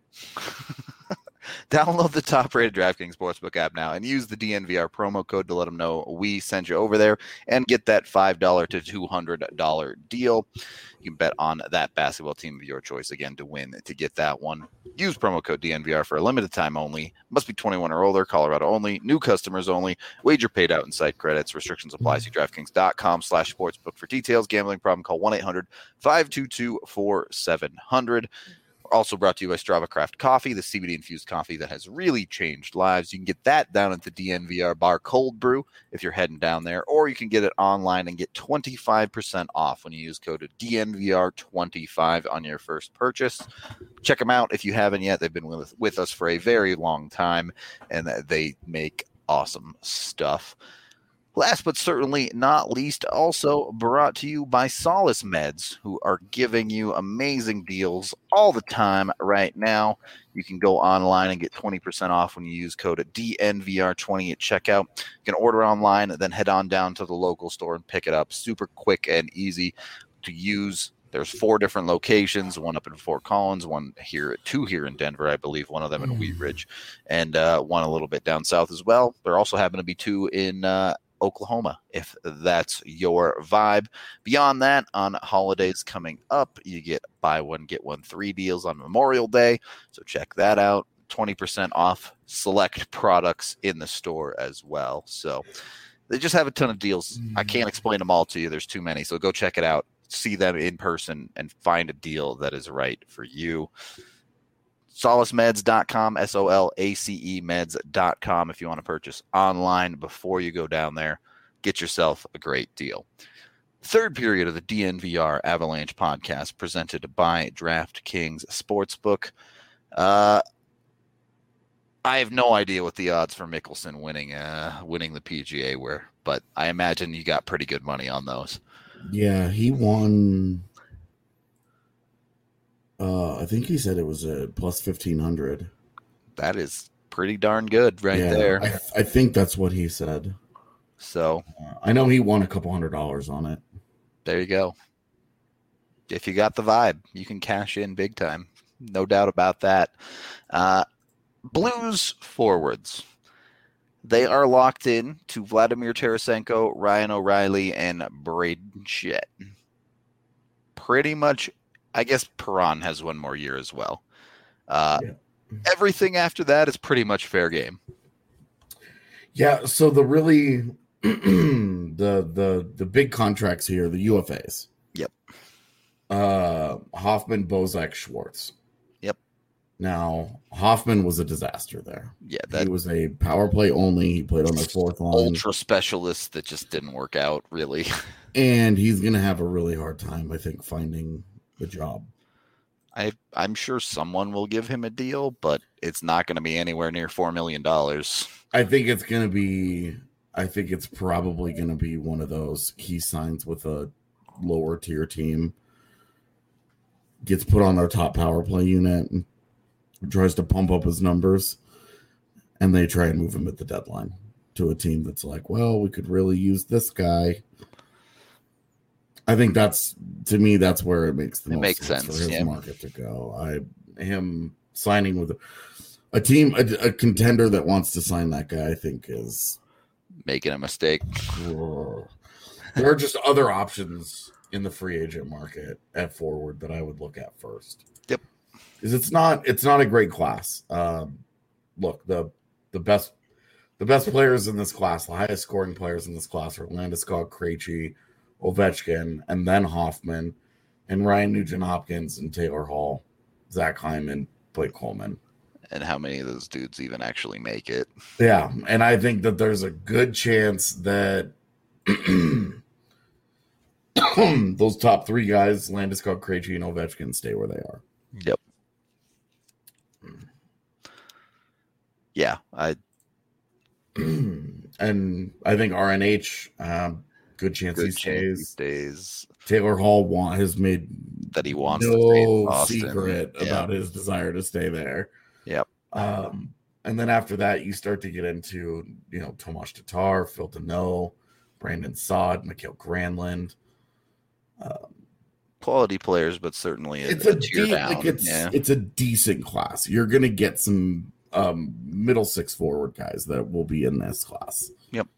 Speaker 2: download the top-rated DraftKings Sportsbook app now and use the D N V R promo code to let them know we sent you over there and get that five dollars to two hundred dollars deal. You can bet on that basketball team of your choice, again, to win, to get that one. Use promo code D N V R for a limited time only. Must be twenty-one or older, Colorado only, new customers only. Wager paid out in site credits. Restrictions apply. See DraftKings.com slash sportsbook for details. Gambling problem, call one eight hundred five two two four seven zero zero. Also brought to you by Strava Craft Coffee, the C B D-infused coffee that has really changed lives. You can get that down at the D N V R Bar Cold Brew if you're heading down there, or you can get it online and get twenty-five percent off when you use code D N V R twenty-five on your first purchase. Check them out if you haven't yet. They've been with, with us for a very long time, and they make awesome stuff. Last but certainly not least, also brought to you by Solace Meds, who are giving you amazing deals all the time right now. You can go online and get twenty percent off when you use code D N V R twenty at checkout. You can order online and then head on down to the local store and pick it up. Super quick and easy to use. There's four different locations, one up in Fort Collins, one here, two here in Denver, I believe, one of them in Wheat Ridge, and uh, one a little bit down south as well. There also happen to be two in uh, Oklahoma, if that's your vibe. Beyond that, on holidays coming up, you get buy one, get one free deals on Memorial Day. So check that out. twenty percent off select products in the store as well. So they just have a ton of deals. I can't explain them all to you. There's too many. So go check it out. See them in person and find a deal that is right for you. solace meds dot com, S O L A C E meds dot com if you want to purchase online before you go down there. Get yourself a great deal. Third period of the D N V R Avalanche podcast presented by DraftKings Sportsbook. Uh, I have no idea what the odds for Mickelson winning uh, winning the P G A were, but I imagine you got pretty good money on those.
Speaker 3: Yeah, he won. Uh, I think he said it was a plus fifteen hundred.
Speaker 2: That is pretty darn good right
Speaker 3: yeah,
Speaker 2: there.
Speaker 3: I, I think that's what he said.
Speaker 2: So
Speaker 3: uh, I know he won a couple hundred dollars on it.
Speaker 2: There you go. If you got the vibe, you can cash in big time. No doubt about that. Uh, Blues forwards. They are locked in to Vladimir Tarasenko, Ryan O'Reilly, and Braden Shet. Pretty much, I guess Perron has one more year as well. Uh, yeah. Everything after that is pretty much fair game.
Speaker 3: Yeah, so the really the the the big contracts here, the U F As.
Speaker 2: Yep.
Speaker 3: Uh, Hoffman, Bozak, Schwartz.
Speaker 2: Yep.
Speaker 3: Now, Hoffman was a disaster there.
Speaker 2: Yeah, that
Speaker 3: he was a power play only. He played on the fourth line.
Speaker 2: Ultra specialist that just didn't work out, really.
Speaker 3: And he's going to have a really hard time, I think, finding the job.
Speaker 2: I I'm sure someone will give him a deal, but it's not going to be anywhere near four million dollars.
Speaker 3: I think it's going to be. I think it's probably going to be one of those. He signs with a lower tier team, gets put on their top power play unit, and tries to pump up his numbers, and they try and move him at the deadline to a team that's like, well, we could really use this guy. I think that's, to me, that's where it makes the
Speaker 2: it
Speaker 3: most
Speaker 2: makes
Speaker 3: sense,
Speaker 2: sense
Speaker 3: for his
Speaker 2: yeah.
Speaker 3: market to go. I him signing with a, a team, a, a contender that wants to sign that guy, I think is
Speaker 2: making a mistake.
Speaker 3: There are just other options in the free agent market at forward that I would look at first.
Speaker 2: Yep,
Speaker 3: because it's not it's not a great class. Um, look, the the best the best players in this class, the highest scoring players in this class are Landeskog, Krejci, Ovechkin, and then Hoffman, and Ryan Nugent-Hopkins, and Taylor Hall, Zach Hyman, Blake Coleman.
Speaker 2: And how many of those dudes even actually make it?
Speaker 3: Yeah, and I think that there's a good chance that those top three guys, Landeskog, Krejci, and Ovechkin, stay where they are.
Speaker 2: Yep. Yeah, I.
Speaker 3: And I think R N H, um, good chance
Speaker 2: Good
Speaker 3: he stays.
Speaker 2: He stays.
Speaker 3: Taylor Hall want, has made
Speaker 2: that he wants to stay in
Speaker 3: no
Speaker 2: Boston.
Speaker 3: secret
Speaker 2: Yeah.
Speaker 3: about his desire to stay there.
Speaker 2: Yep.
Speaker 3: Um, and then after that, you start to get into, you know, Tomas Tatar, Phil Deneau, Brandon Saad, Mikael Granlund. Um,
Speaker 2: Quality players, but certainly a,
Speaker 3: it's
Speaker 2: a
Speaker 3: a
Speaker 2: tier
Speaker 3: de-
Speaker 2: down.
Speaker 3: like it's
Speaker 2: yeah.
Speaker 3: it's a decent class. You're gonna get some um, middle six forward guys that will be in this class.
Speaker 2: Yep.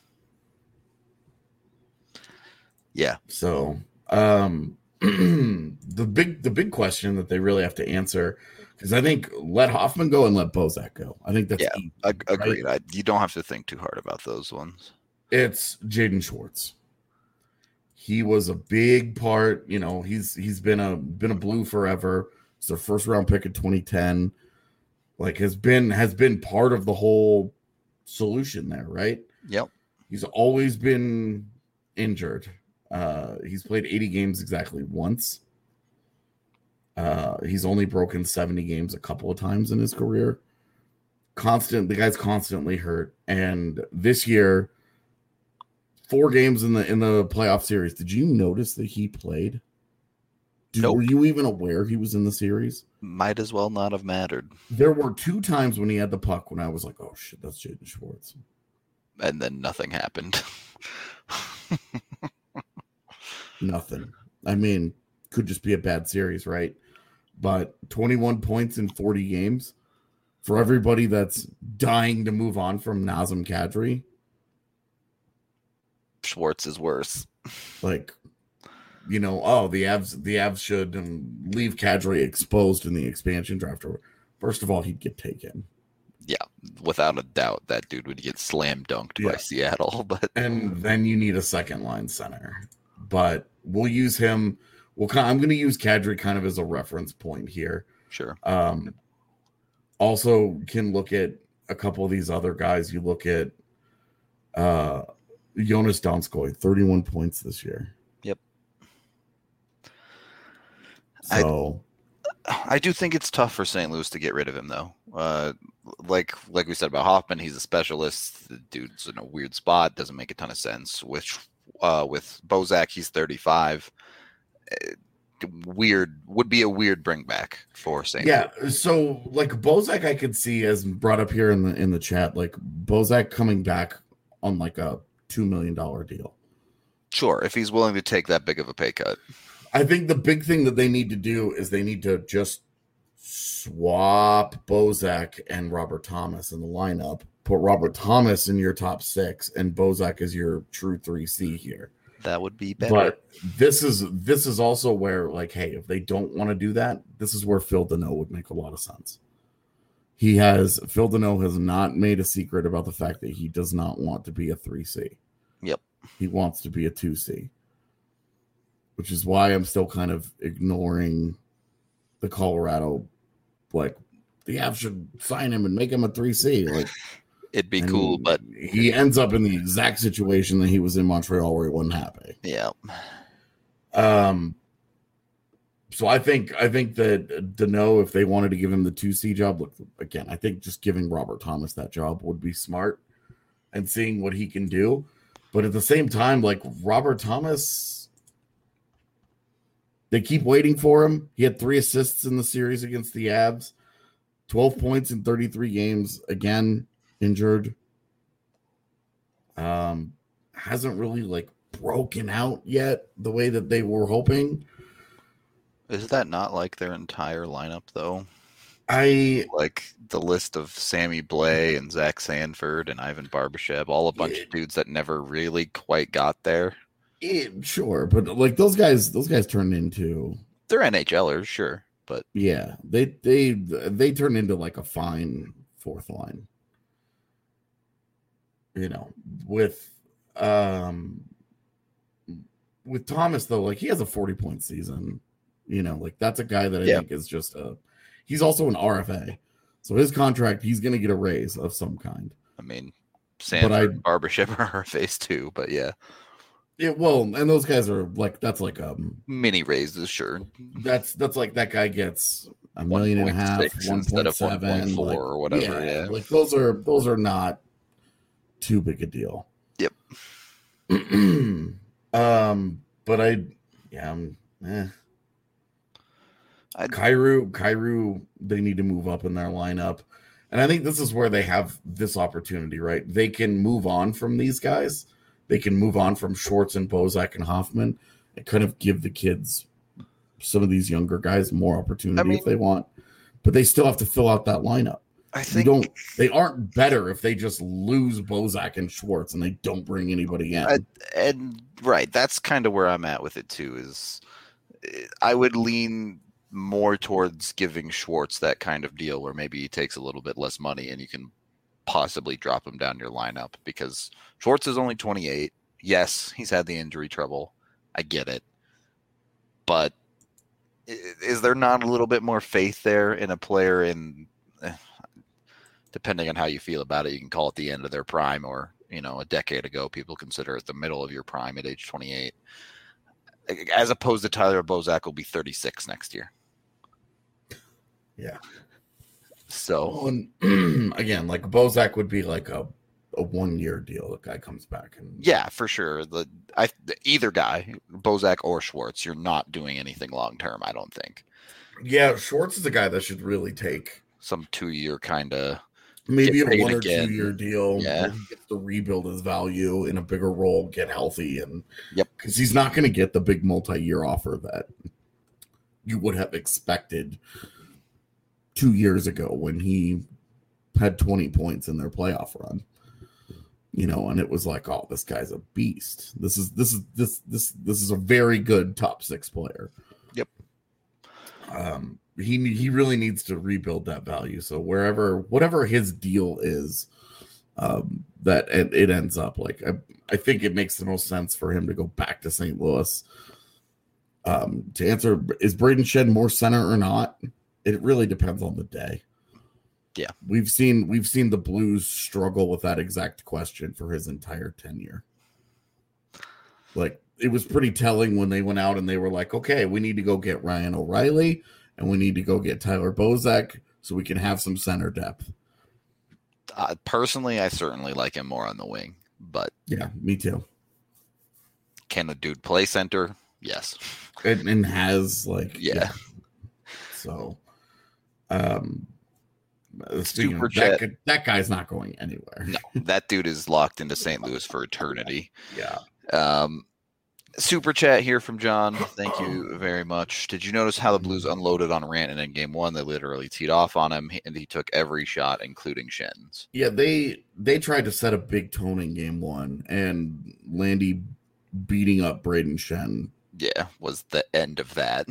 Speaker 2: Yeah.
Speaker 3: So um, the big the big question that they really have to answer, because I think let Hoffman go and let Bozak go. I think that's
Speaker 2: Yeah,
Speaker 3: easy,
Speaker 2: ag-
Speaker 3: right?
Speaker 2: agreed. I, you don't have to think too hard about those ones.
Speaker 3: It's Jaden Schwartz. He was a big part. You know, he's he's been a been a Blue forever. He's their first round pick in twenty ten. Like has been has been part of the whole solution there, right?
Speaker 2: Yep.
Speaker 3: He's always been injured. Uh, he's played eighty games exactly once. Uh, he's only broken seventy games a couple of times in his career. Constant, the guy's constantly hurt. And this year, four games in the in the playoff series. Did you notice that he played? Did,
Speaker 2: Nope.
Speaker 3: Were you even aware he was in the series?
Speaker 2: Might as well not have mattered.
Speaker 3: There were two times when he had the puck when I was like, "Oh shit, that's Jaden Schwartz,"
Speaker 2: And then nothing happened.
Speaker 3: Nothing. I mean, could just be a bad series, right? But twenty-one points in forty games for everybody that's dying to move on from Nazem Kadri.
Speaker 2: Schwartz is worse.
Speaker 3: Like, you know, oh, the Avs, the Avs should um, leave Kadri exposed in the expansion draft. First of all, he'd get taken.
Speaker 2: Yeah, without a doubt, that dude would get slam dunked
Speaker 3: Yeah.
Speaker 2: by Seattle. But
Speaker 3: And then you need a second line center. But we'll use him. We'll, I'm going to use Kadri kind of as a reference point here.
Speaker 2: sure.
Speaker 3: Um, also can look at a couple of these other guys. You look at uh, Jonas Donskoy, thirty-one points this year.
Speaker 2: Yep.
Speaker 3: So
Speaker 2: I do think it's tough for Saint Louis to get rid of him, though. Uh, like like we said about Hoffman, he's a specialist. The dude's in a weird spot. Doesn't make a ton of sense. With uh, with Bozak, he's thirty-five. Uh, weird would be a weird bring back for Saint
Speaker 3: yeah,
Speaker 2: Louis.
Speaker 3: so like Bozak, I could see as brought up here in the in the chat, like Bozak coming back on like a two million dollar deal.
Speaker 2: Sure, if he's willing to take that big of a pay cut.
Speaker 3: I think the big thing that they need to do is they need to just swap Bozak and Robert Thomas in the lineup. Put Robert Thomas in your top six, and Bozak is your true three C here.
Speaker 2: That would be better.
Speaker 3: But this is this is also where, like, hey, if they don't want to do that, this is where Phil Deneau would make a lot of sense. He has Phil Deneau has not made a secret about the fact that he does not want to be a three C.
Speaker 2: Yep.
Speaker 3: He wants to be a two C. Which is why I'm still kind of ignoring the Colorado, like, the Avs should sign him and make him a three C. Like,
Speaker 2: It'd be cool, but
Speaker 3: he ends up in the exact situation that he was in Montreal where he wasn't happy.
Speaker 2: yeah.
Speaker 3: Um, so I think I think that Dano, if they wanted to give him the two C job, look again, I think just giving Robert Thomas that job would be smart and seeing what he can do. But at the same time, like Robert Thomas, they keep waiting for him. He had three assists in the series against the Avs, twelve points in thirty-three games. Again, injured. Um, hasn't really like broken out yet the way that they were hoping.
Speaker 2: Is that not like their entire lineup, though?
Speaker 3: I
Speaker 2: Like the list of Sammy Blais and Zach Sanford and Ivan Barbashev, all a bunch
Speaker 3: Yeah.
Speaker 2: of dudes that never really quite got there.
Speaker 3: Yeah, sure, but like those guys, those guys turned into
Speaker 2: They're NHLers, sure, but
Speaker 3: yeah, they they they turned into like a fine fourth line. You know, with um with Thomas though, like he has a forty point season. You know, like that's a guy that I
Speaker 2: Yeah.
Speaker 3: think is just a. He's also an R F A, so his contract he's going to get a raise of some kind.
Speaker 2: I mean, Sanford
Speaker 3: I-
Speaker 2: and Barbashev are our face too, but yeah,
Speaker 3: Yeah, well, and those guys are like that's like um
Speaker 2: mini raises, sure.
Speaker 3: that's that's like that guy gets a million and a half,
Speaker 2: one point six
Speaker 3: one
Speaker 2: instead
Speaker 3: point
Speaker 2: of one point
Speaker 3: seven,
Speaker 2: four
Speaker 3: like,
Speaker 2: or whatever, yeah.
Speaker 3: like those are those are not too big a deal.
Speaker 2: Yep.
Speaker 3: um, but I, yeah, I'm, eh.
Speaker 2: I'd-
Speaker 3: Kyrou, Kyrou, they need to move up in their lineup, and I think this is where they have this opportunity. Right, they can move on from these guys. They can move on from Schwartz and Bozak and Hoffman and kind of give the kids, some of these younger guys, more opportunity
Speaker 2: I mean-
Speaker 3: if they want. But they still have to fill out that lineup.
Speaker 2: I
Speaker 3: You
Speaker 2: think
Speaker 3: don't. They aren't better if they just lose Bozak and Schwartz and they don't bring anybody in.
Speaker 2: I- and right, that's kind of where I'm at with it too. Is eh, I would lean more towards giving Schwartz that kind of deal where maybe he takes a little bit less money and you can possibly drop him down your lineup, because Schwartz is only twenty-eight. Yes, he's had the injury trouble. I get it. But i- is there not a little bit more faith there in a player in, eh, depending on how you feel about it, you can call it the end of their prime, or, you know, a decade ago, people consider it the middle of your prime at age twenty-eight, as opposed to Tyler Bozak will be thirty-six next year.
Speaker 3: Yeah.
Speaker 2: So
Speaker 3: Well, and again, like Bozak would be like a, a one year deal. The guy comes back and
Speaker 2: yeah, for sure. The I either guy, Bozak or Schwartz, you're not doing anything long term. I don't think
Speaker 3: yeah, Schwartz is a guy that should really take
Speaker 2: some two year kind of
Speaker 3: maybe
Speaker 2: Get
Speaker 3: a
Speaker 2: paid
Speaker 3: one or
Speaker 2: again.
Speaker 3: two year deal.
Speaker 2: Yeah.
Speaker 3: Where he gets to rebuild his value in a bigger role, get healthy, and
Speaker 2: Yep.
Speaker 3: because he's not going to get the big multi year offer that you would have expected two years ago when he had twenty points in their playoff run. You know, and it was like, oh, this guy's a beast. This is this is this this this is a very good top six player.
Speaker 2: Yep.
Speaker 3: Um, he he really needs to rebuild that value. So wherever whatever his deal is, um, that it, it ends up like I I think it makes the most sense for him to go back to Saint Louis. Um, to answer, is Braden Shed more center or not? It really depends on the day.
Speaker 2: Yeah.
Speaker 3: We've seen we've seen the Blues struggle with that exact question for his entire tenure. Like, it was pretty telling when they went out and they were like, okay, we need to go get Ryan O'Reilly and we need to go get Tyler Bozak so we can have some center depth.
Speaker 2: uh, personally, I certainly like him more on the wing, but
Speaker 3: Yeah, me too.
Speaker 2: can a dude play center? Yes.
Speaker 3: And, and has like
Speaker 2: Yeah.
Speaker 3: So, um, speaking
Speaker 2: Super
Speaker 3: of, that,
Speaker 2: chat.
Speaker 3: guy- that guy's not going anywhere.
Speaker 2: No, that dude is locked into Saint Louis for eternity.
Speaker 3: Yeah.
Speaker 2: Um, super chat here from John. Thank you very much. Did you notice how the Blues unloaded on Rantanen in game one? They literally teed off on him, and he took every shot, including Shen's.
Speaker 3: Yeah, they they tried to set a big tone in game one, and Landy beating up Braden Shen.
Speaker 2: Yeah, was the end of that.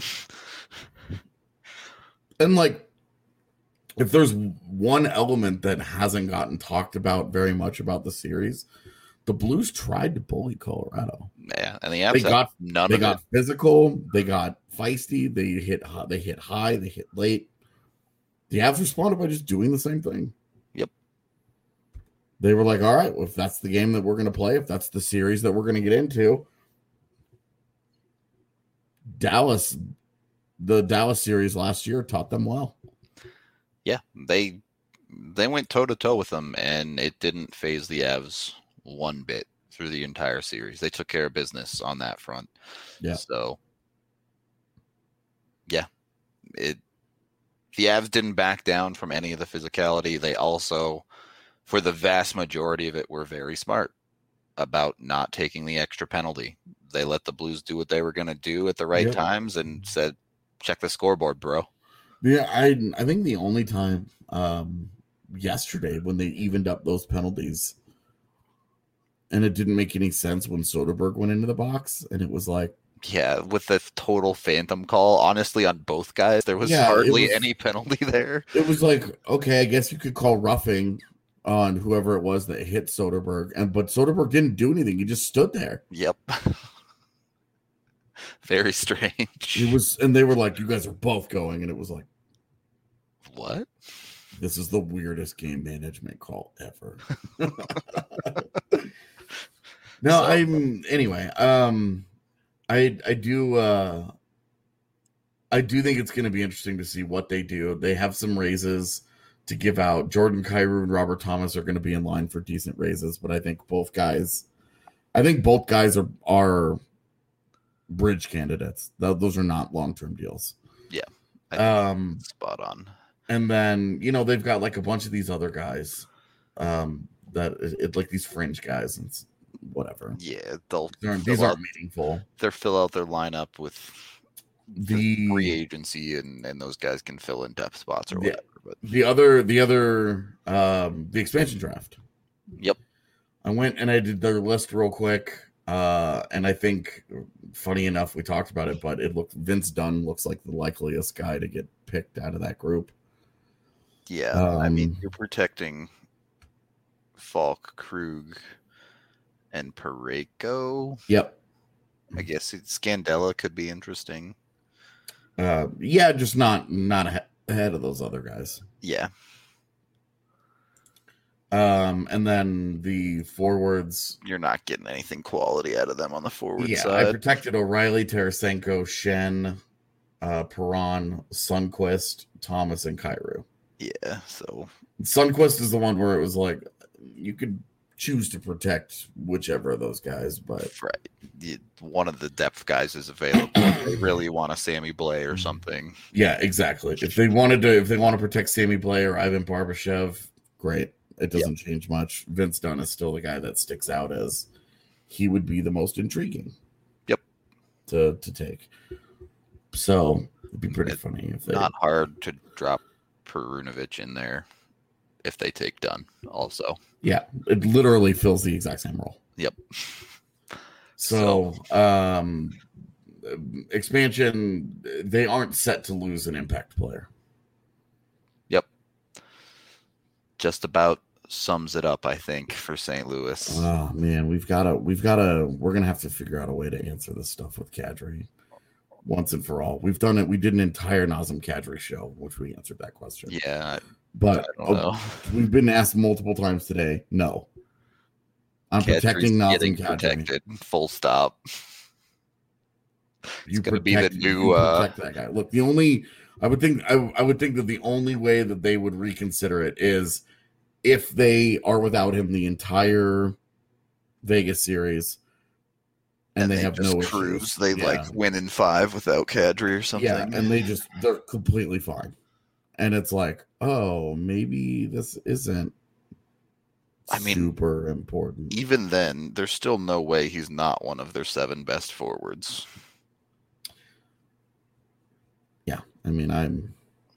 Speaker 3: And like, if there's one element that hasn't gotten talked about very much about the series, the Blues tried to bully Colorado.
Speaker 2: Yeah, and the
Speaker 3: They
Speaker 2: Avs
Speaker 3: got
Speaker 2: none
Speaker 3: they
Speaker 2: of
Speaker 3: got
Speaker 2: it.
Speaker 3: physical, they got feisty, they hit hi- they hit high, they hit late. The Avs responded by just doing the same thing.
Speaker 2: Yep.
Speaker 3: They were like, all right, well, if that's the game that we're going to play, if that's the series that we're going to get into, Dallas the Dallas series last year taught them well.
Speaker 2: Yeah, they they went toe to toe with them, and it didn't phase the Avs one bit through the entire series. They took care of business on that front.
Speaker 3: Yeah.
Speaker 2: So, yeah, it the Avs didn't back down from any of the physicality. They also, for the vast majority of it, were very smart about not taking the extra penalty. They let the Blues do what they were going to do at the right
Speaker 3: Yep.
Speaker 2: times and said, check the scoreboard, bro.
Speaker 3: Yeah, I I think the only time um, yesterday when they evened up those penalties, and it didn't make any sense when Soderberg went into the box, and it was like,
Speaker 2: Yeah, with the total phantom call, honestly, on both guys, there was
Speaker 3: Yeah, it
Speaker 2: hardly
Speaker 3: was-
Speaker 2: any penalty there.
Speaker 3: it was like, okay, I guess you could call roughing on whoever it was that hit Soderberg, and but Soderberg didn't do anything; he just stood there.
Speaker 2: Yep. Very strange.
Speaker 3: It was, and they were like, "You guys are both going," and it was like,
Speaker 2: What?
Speaker 3: this is the weirdest game management call ever. No,
Speaker 2: So-
Speaker 3: I'm anyway. Um, I I do uh, I do think it's going to be interesting to see what they do. They have some raises to give out. Jordan Kyrou and Robert Thomas are going to be in line for decent raises, but I think both guys, I think both guys are are bridge candidates. Th- Those are not long term deals.
Speaker 2: I think
Speaker 3: Um,
Speaker 2: spot on.
Speaker 3: and then you know they've got like a bunch of these other guys, um, that it, it like these fringe guys and s- whatever.
Speaker 2: Yeah, they'll
Speaker 3: They're,
Speaker 2: fill
Speaker 3: these
Speaker 2: out,
Speaker 3: aren't meaningful.
Speaker 2: they'll fill out their lineup with the free
Speaker 3: The
Speaker 2: agency, and, and those guys can fill in depth spots or
Speaker 3: Yeah.
Speaker 2: whatever. But
Speaker 3: the other the other um, the expansion draft.
Speaker 2: yep,
Speaker 3: I went and I did their list real quick, uh, and I think, funny enough, we talked about it, but it looked Vince Dunn looks like the likeliest guy to get picked out of that group.
Speaker 2: yeah. I mean,
Speaker 3: Um,
Speaker 2: you're protecting Falk, Krug, and Pareko.
Speaker 3: Yep.
Speaker 2: I guess it, Scandella could be interesting.
Speaker 3: Uh, yeah, just not not ahe- ahead of those other guys.
Speaker 2: Yeah,
Speaker 3: Um, and then the forwards.
Speaker 2: you're not getting anything quality out of them on the forward
Speaker 3: Yeah, I
Speaker 2: side.
Speaker 3: protected O'Reilly, Tarasenko, Shen, uh, Perron, Sunquist, Thomas, and Kyrou.
Speaker 2: Yeah, so
Speaker 3: Sunquist is the one where it was like you could choose to protect whichever of those guys, but
Speaker 2: right, you, one of the depth guys is available. If they really want a Sammy Blay or something.
Speaker 3: yeah, exactly. If they wanted to, if they want to protect Sammy Blay or Ivan Barbashev, great. It doesn't change much. Vince Dunn is still the guy that sticks out as he would be the most intriguing.
Speaker 2: Yep.
Speaker 3: To to take. So it'd be pretty
Speaker 2: It's
Speaker 3: funny if they.
Speaker 2: Not hard to drop Perunovic in there if they take Dunn also.
Speaker 3: Yeah, it literally fills the exact same role.
Speaker 2: Yep.
Speaker 3: So, um, expansion, they aren't set to lose an impact player.
Speaker 2: Yep. Just about sums it up, I think, for Saint Louis.
Speaker 3: Oh man, we've got to, we've got to, we're gonna have to figure out a way to answer this stuff with Kadri once and for all. We've done it. We did an entire Nazem Kadri show, which we answered that question.
Speaker 2: Yeah,
Speaker 3: but
Speaker 2: I don't know.
Speaker 3: oh, we've been asked multiple times today. No, I'm
Speaker 2: Kadri's
Speaker 3: protecting Nazem
Speaker 2: getting
Speaker 3: Kadri.
Speaker 2: protected. Full stop.
Speaker 3: You
Speaker 2: gonna be the
Speaker 3: protect-
Speaker 2: new,
Speaker 3: you
Speaker 2: uh,
Speaker 3: protect that guy. Look, the only I would think I, I would think that the only way that they would reconsider it is if they are without him the entire Vegas series, and, they, have
Speaker 2: just
Speaker 3: no
Speaker 2: cruise.
Speaker 3: issues.
Speaker 2: They
Speaker 3: Yeah.
Speaker 2: like win in five without Kadri or something.
Speaker 3: yeah, and they just they're completely fine. And it's like, oh, maybe this isn't.
Speaker 2: I mean,
Speaker 3: super important.
Speaker 2: even then, there's still no way he's not one of their seven best forwards.
Speaker 3: Yeah, I mean, I'm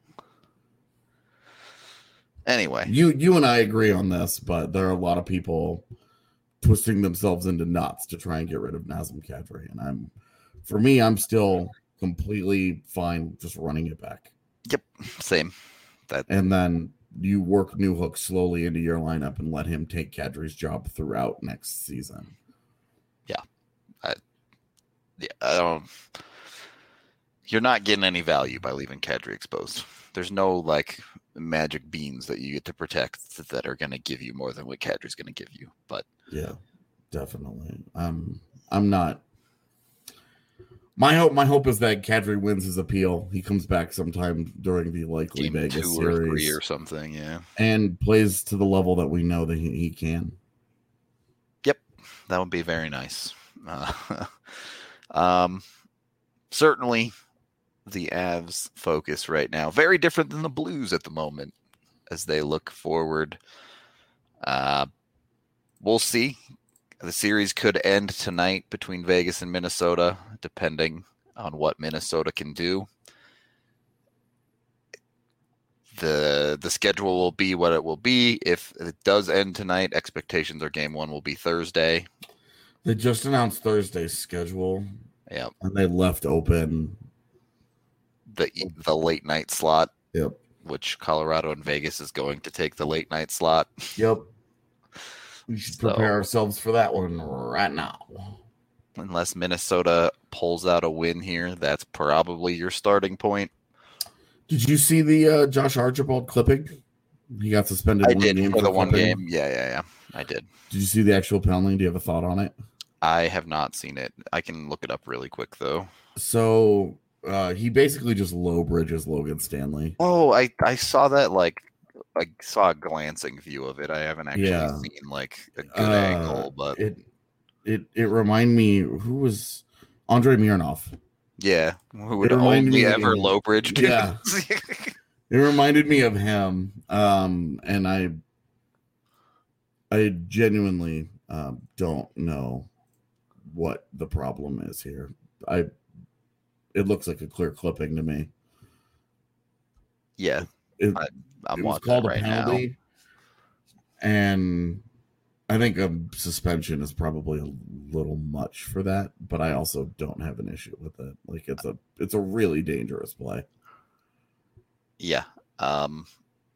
Speaker 2: Anyway,
Speaker 3: you you and I agree on this, but there are a lot of people twisting themselves into knots to try and get rid of Nazem Kadri, and I'm for me, I'm still completely fine just running it back,
Speaker 2: yep, same. That
Speaker 3: and then you work Newhook slowly into your lineup and let him take Kadri's job throughout next season.
Speaker 2: yeah, I don't. You're not getting any value by leaving Kadri exposed. There's no like magic beans that you get to protect that are going to give you more than what Kadri's going to give you. But
Speaker 3: Yeah, definitely. Um, I'm not. My hope, my hope is that Kadri wins his appeal. He comes back sometime during the likely
Speaker 2: Game
Speaker 3: Vegas
Speaker 2: two
Speaker 3: series
Speaker 2: or three or something, yeah.
Speaker 3: and plays to the level that we know that he, he can.
Speaker 2: Yep, that would be very nice. Uh, um, certainly, the Avs' focus right now very different than the Blues at the moment as they look forward. Uh, we'll see. The series could end tonight between Vegas and Minnesota, depending on what Minnesota can do. The the schedule will be what it will be. If it does end tonight, expectations are game one will be Thursday.
Speaker 3: They just announced Thursday's schedule.
Speaker 2: Yep.
Speaker 3: And they left open
Speaker 2: the the late night slot.
Speaker 3: Yep.
Speaker 2: Which Colorado and Vegas is going to take the late night slot.
Speaker 3: Yep. We should prepare so, ourselves for that one right now.
Speaker 2: Unless Minnesota pulls out a win here, that's probably your starting point.
Speaker 3: Did you see the uh, Josh Archibald clipping? He got suspended.
Speaker 2: I
Speaker 3: one
Speaker 2: did
Speaker 3: game
Speaker 2: for the
Speaker 3: clipping.
Speaker 2: one game. Yeah, yeah, yeah. I did.
Speaker 3: Did you see the actual penalty? Do you have a thought on it?
Speaker 2: I have not seen it. I can look it up really quick, though.
Speaker 3: So uh, he basically just low bridges Logan Stanley.
Speaker 2: Oh, I, I saw that, like, I saw a glancing view of it. I haven't actually
Speaker 3: yeah.
Speaker 2: seen like a good
Speaker 3: uh,
Speaker 2: angle, but
Speaker 3: it it it reminded me who was Andrei Mironov.
Speaker 2: Yeah, who would only ever low bridge.
Speaker 3: Yeah, it reminded me of him, um, and I I genuinely um, don't know what the problem is here. I it looks like a clear clipping to me.
Speaker 2: Yeah,
Speaker 3: it,
Speaker 2: I, I'm
Speaker 3: it was
Speaker 2: watching
Speaker 3: called
Speaker 2: it right
Speaker 3: a penalty,
Speaker 2: now.
Speaker 3: And I think a suspension is probably a little much for that, but I also don't have an issue with it. Like it's a it's a really dangerous play.
Speaker 2: Yeah. Um,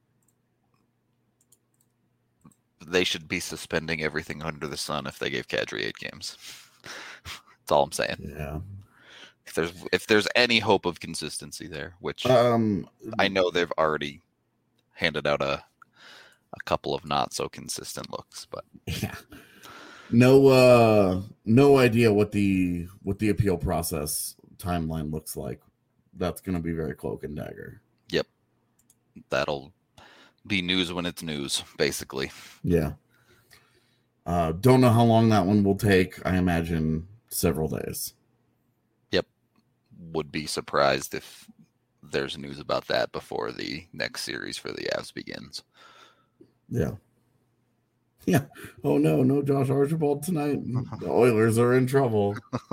Speaker 2: they should be suspending everything under the sun if they gave Kadri eight games. That's all I'm saying.
Speaker 3: Yeah.
Speaker 2: If there's if there's any hope of consistency there, which
Speaker 3: um,
Speaker 2: I know they've already handed out a a couple of not so consistent looks, but
Speaker 3: yeah, no, uh, no idea what the what the appeal process timeline looks like. That's going to be very cloak and dagger.
Speaker 2: Yep, that'll be news when it's news, basically.
Speaker 3: Yeah. Uh, don't know how long that one will take. I imagine several days.
Speaker 2: Yep, would be surprised if there's news about that before the next series for the Avs begins.
Speaker 3: Yeah. Yeah. Oh, no. No Josh Archibald tonight. The Oilers are in trouble.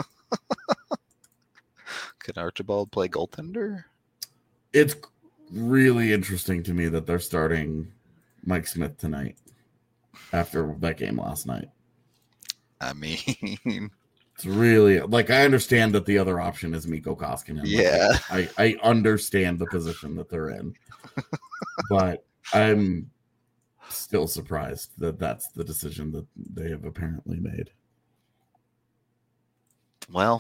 Speaker 2: Can Archibald play goaltender?
Speaker 3: It's really interesting to me that they're starting Mike Smith tonight after that game last night.
Speaker 2: I mean,
Speaker 3: it's really like I understand that the other option is Mikko Koskinen.
Speaker 2: Yeah.
Speaker 3: I, I understand the position that they're in, but I'm still surprised that that's the decision that they have apparently made.
Speaker 2: Well,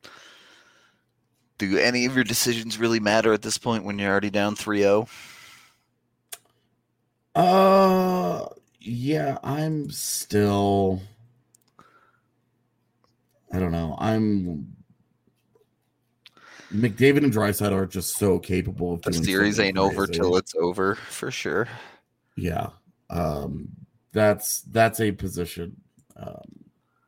Speaker 2: do any of your decisions really matter at this point when you're already down three oh?
Speaker 3: Uh, yeah, I'm still, I don't know. I'm McDavid and Draisaitl are just so capable of
Speaker 2: the
Speaker 3: doing
Speaker 2: series ain't
Speaker 3: crazy.
Speaker 2: over till it's over for sure.
Speaker 3: Yeah. Um, that's, that's a position. Um,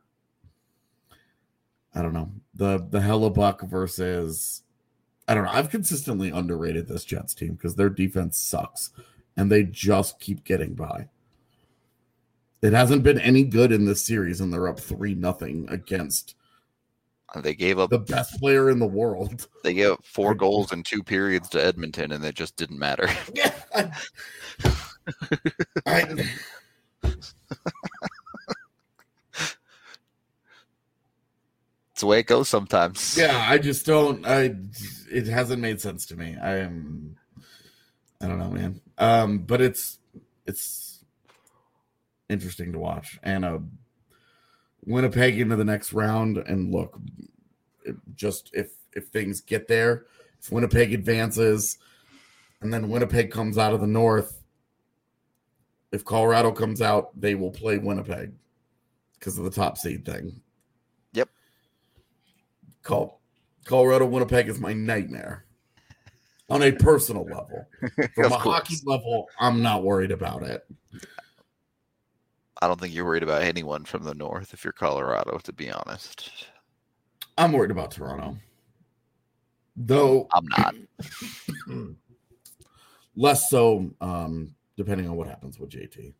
Speaker 3: I don't know. The the Hellebuck versus I don't know. I've consistently underrated this Jets team because their defense sucks and they just keep getting by. It hasn't been any good in this series, and they're up three nothing against
Speaker 2: they gave up
Speaker 3: the best player in the world.
Speaker 2: They gave up four goals in two periods to Edmonton, and it just didn't matter.
Speaker 3: Yeah. I, I,
Speaker 2: It's the way it goes sometimes.
Speaker 3: Yeah, I just don't. I it hasn't made sense to me. I am. I don't know, man. Um, but it's it's interesting to watch, and uh, Winnipeg into the next round. And look, it just if if things get there, if Winnipeg advances, and then Winnipeg comes out of the North, if Colorado comes out, they will play Winnipeg because of the top seed thing.
Speaker 2: Yep.
Speaker 3: Call Colorado Winnipeg is my nightmare on a personal level. From a hockey level, I'm not worried about it.
Speaker 2: I don't think you're worried about anyone from the north if you're Colorado, to be honest.
Speaker 3: I'm worried about Toronto. Though
Speaker 2: I'm not.
Speaker 3: Less so, um, depending on what happens with J T.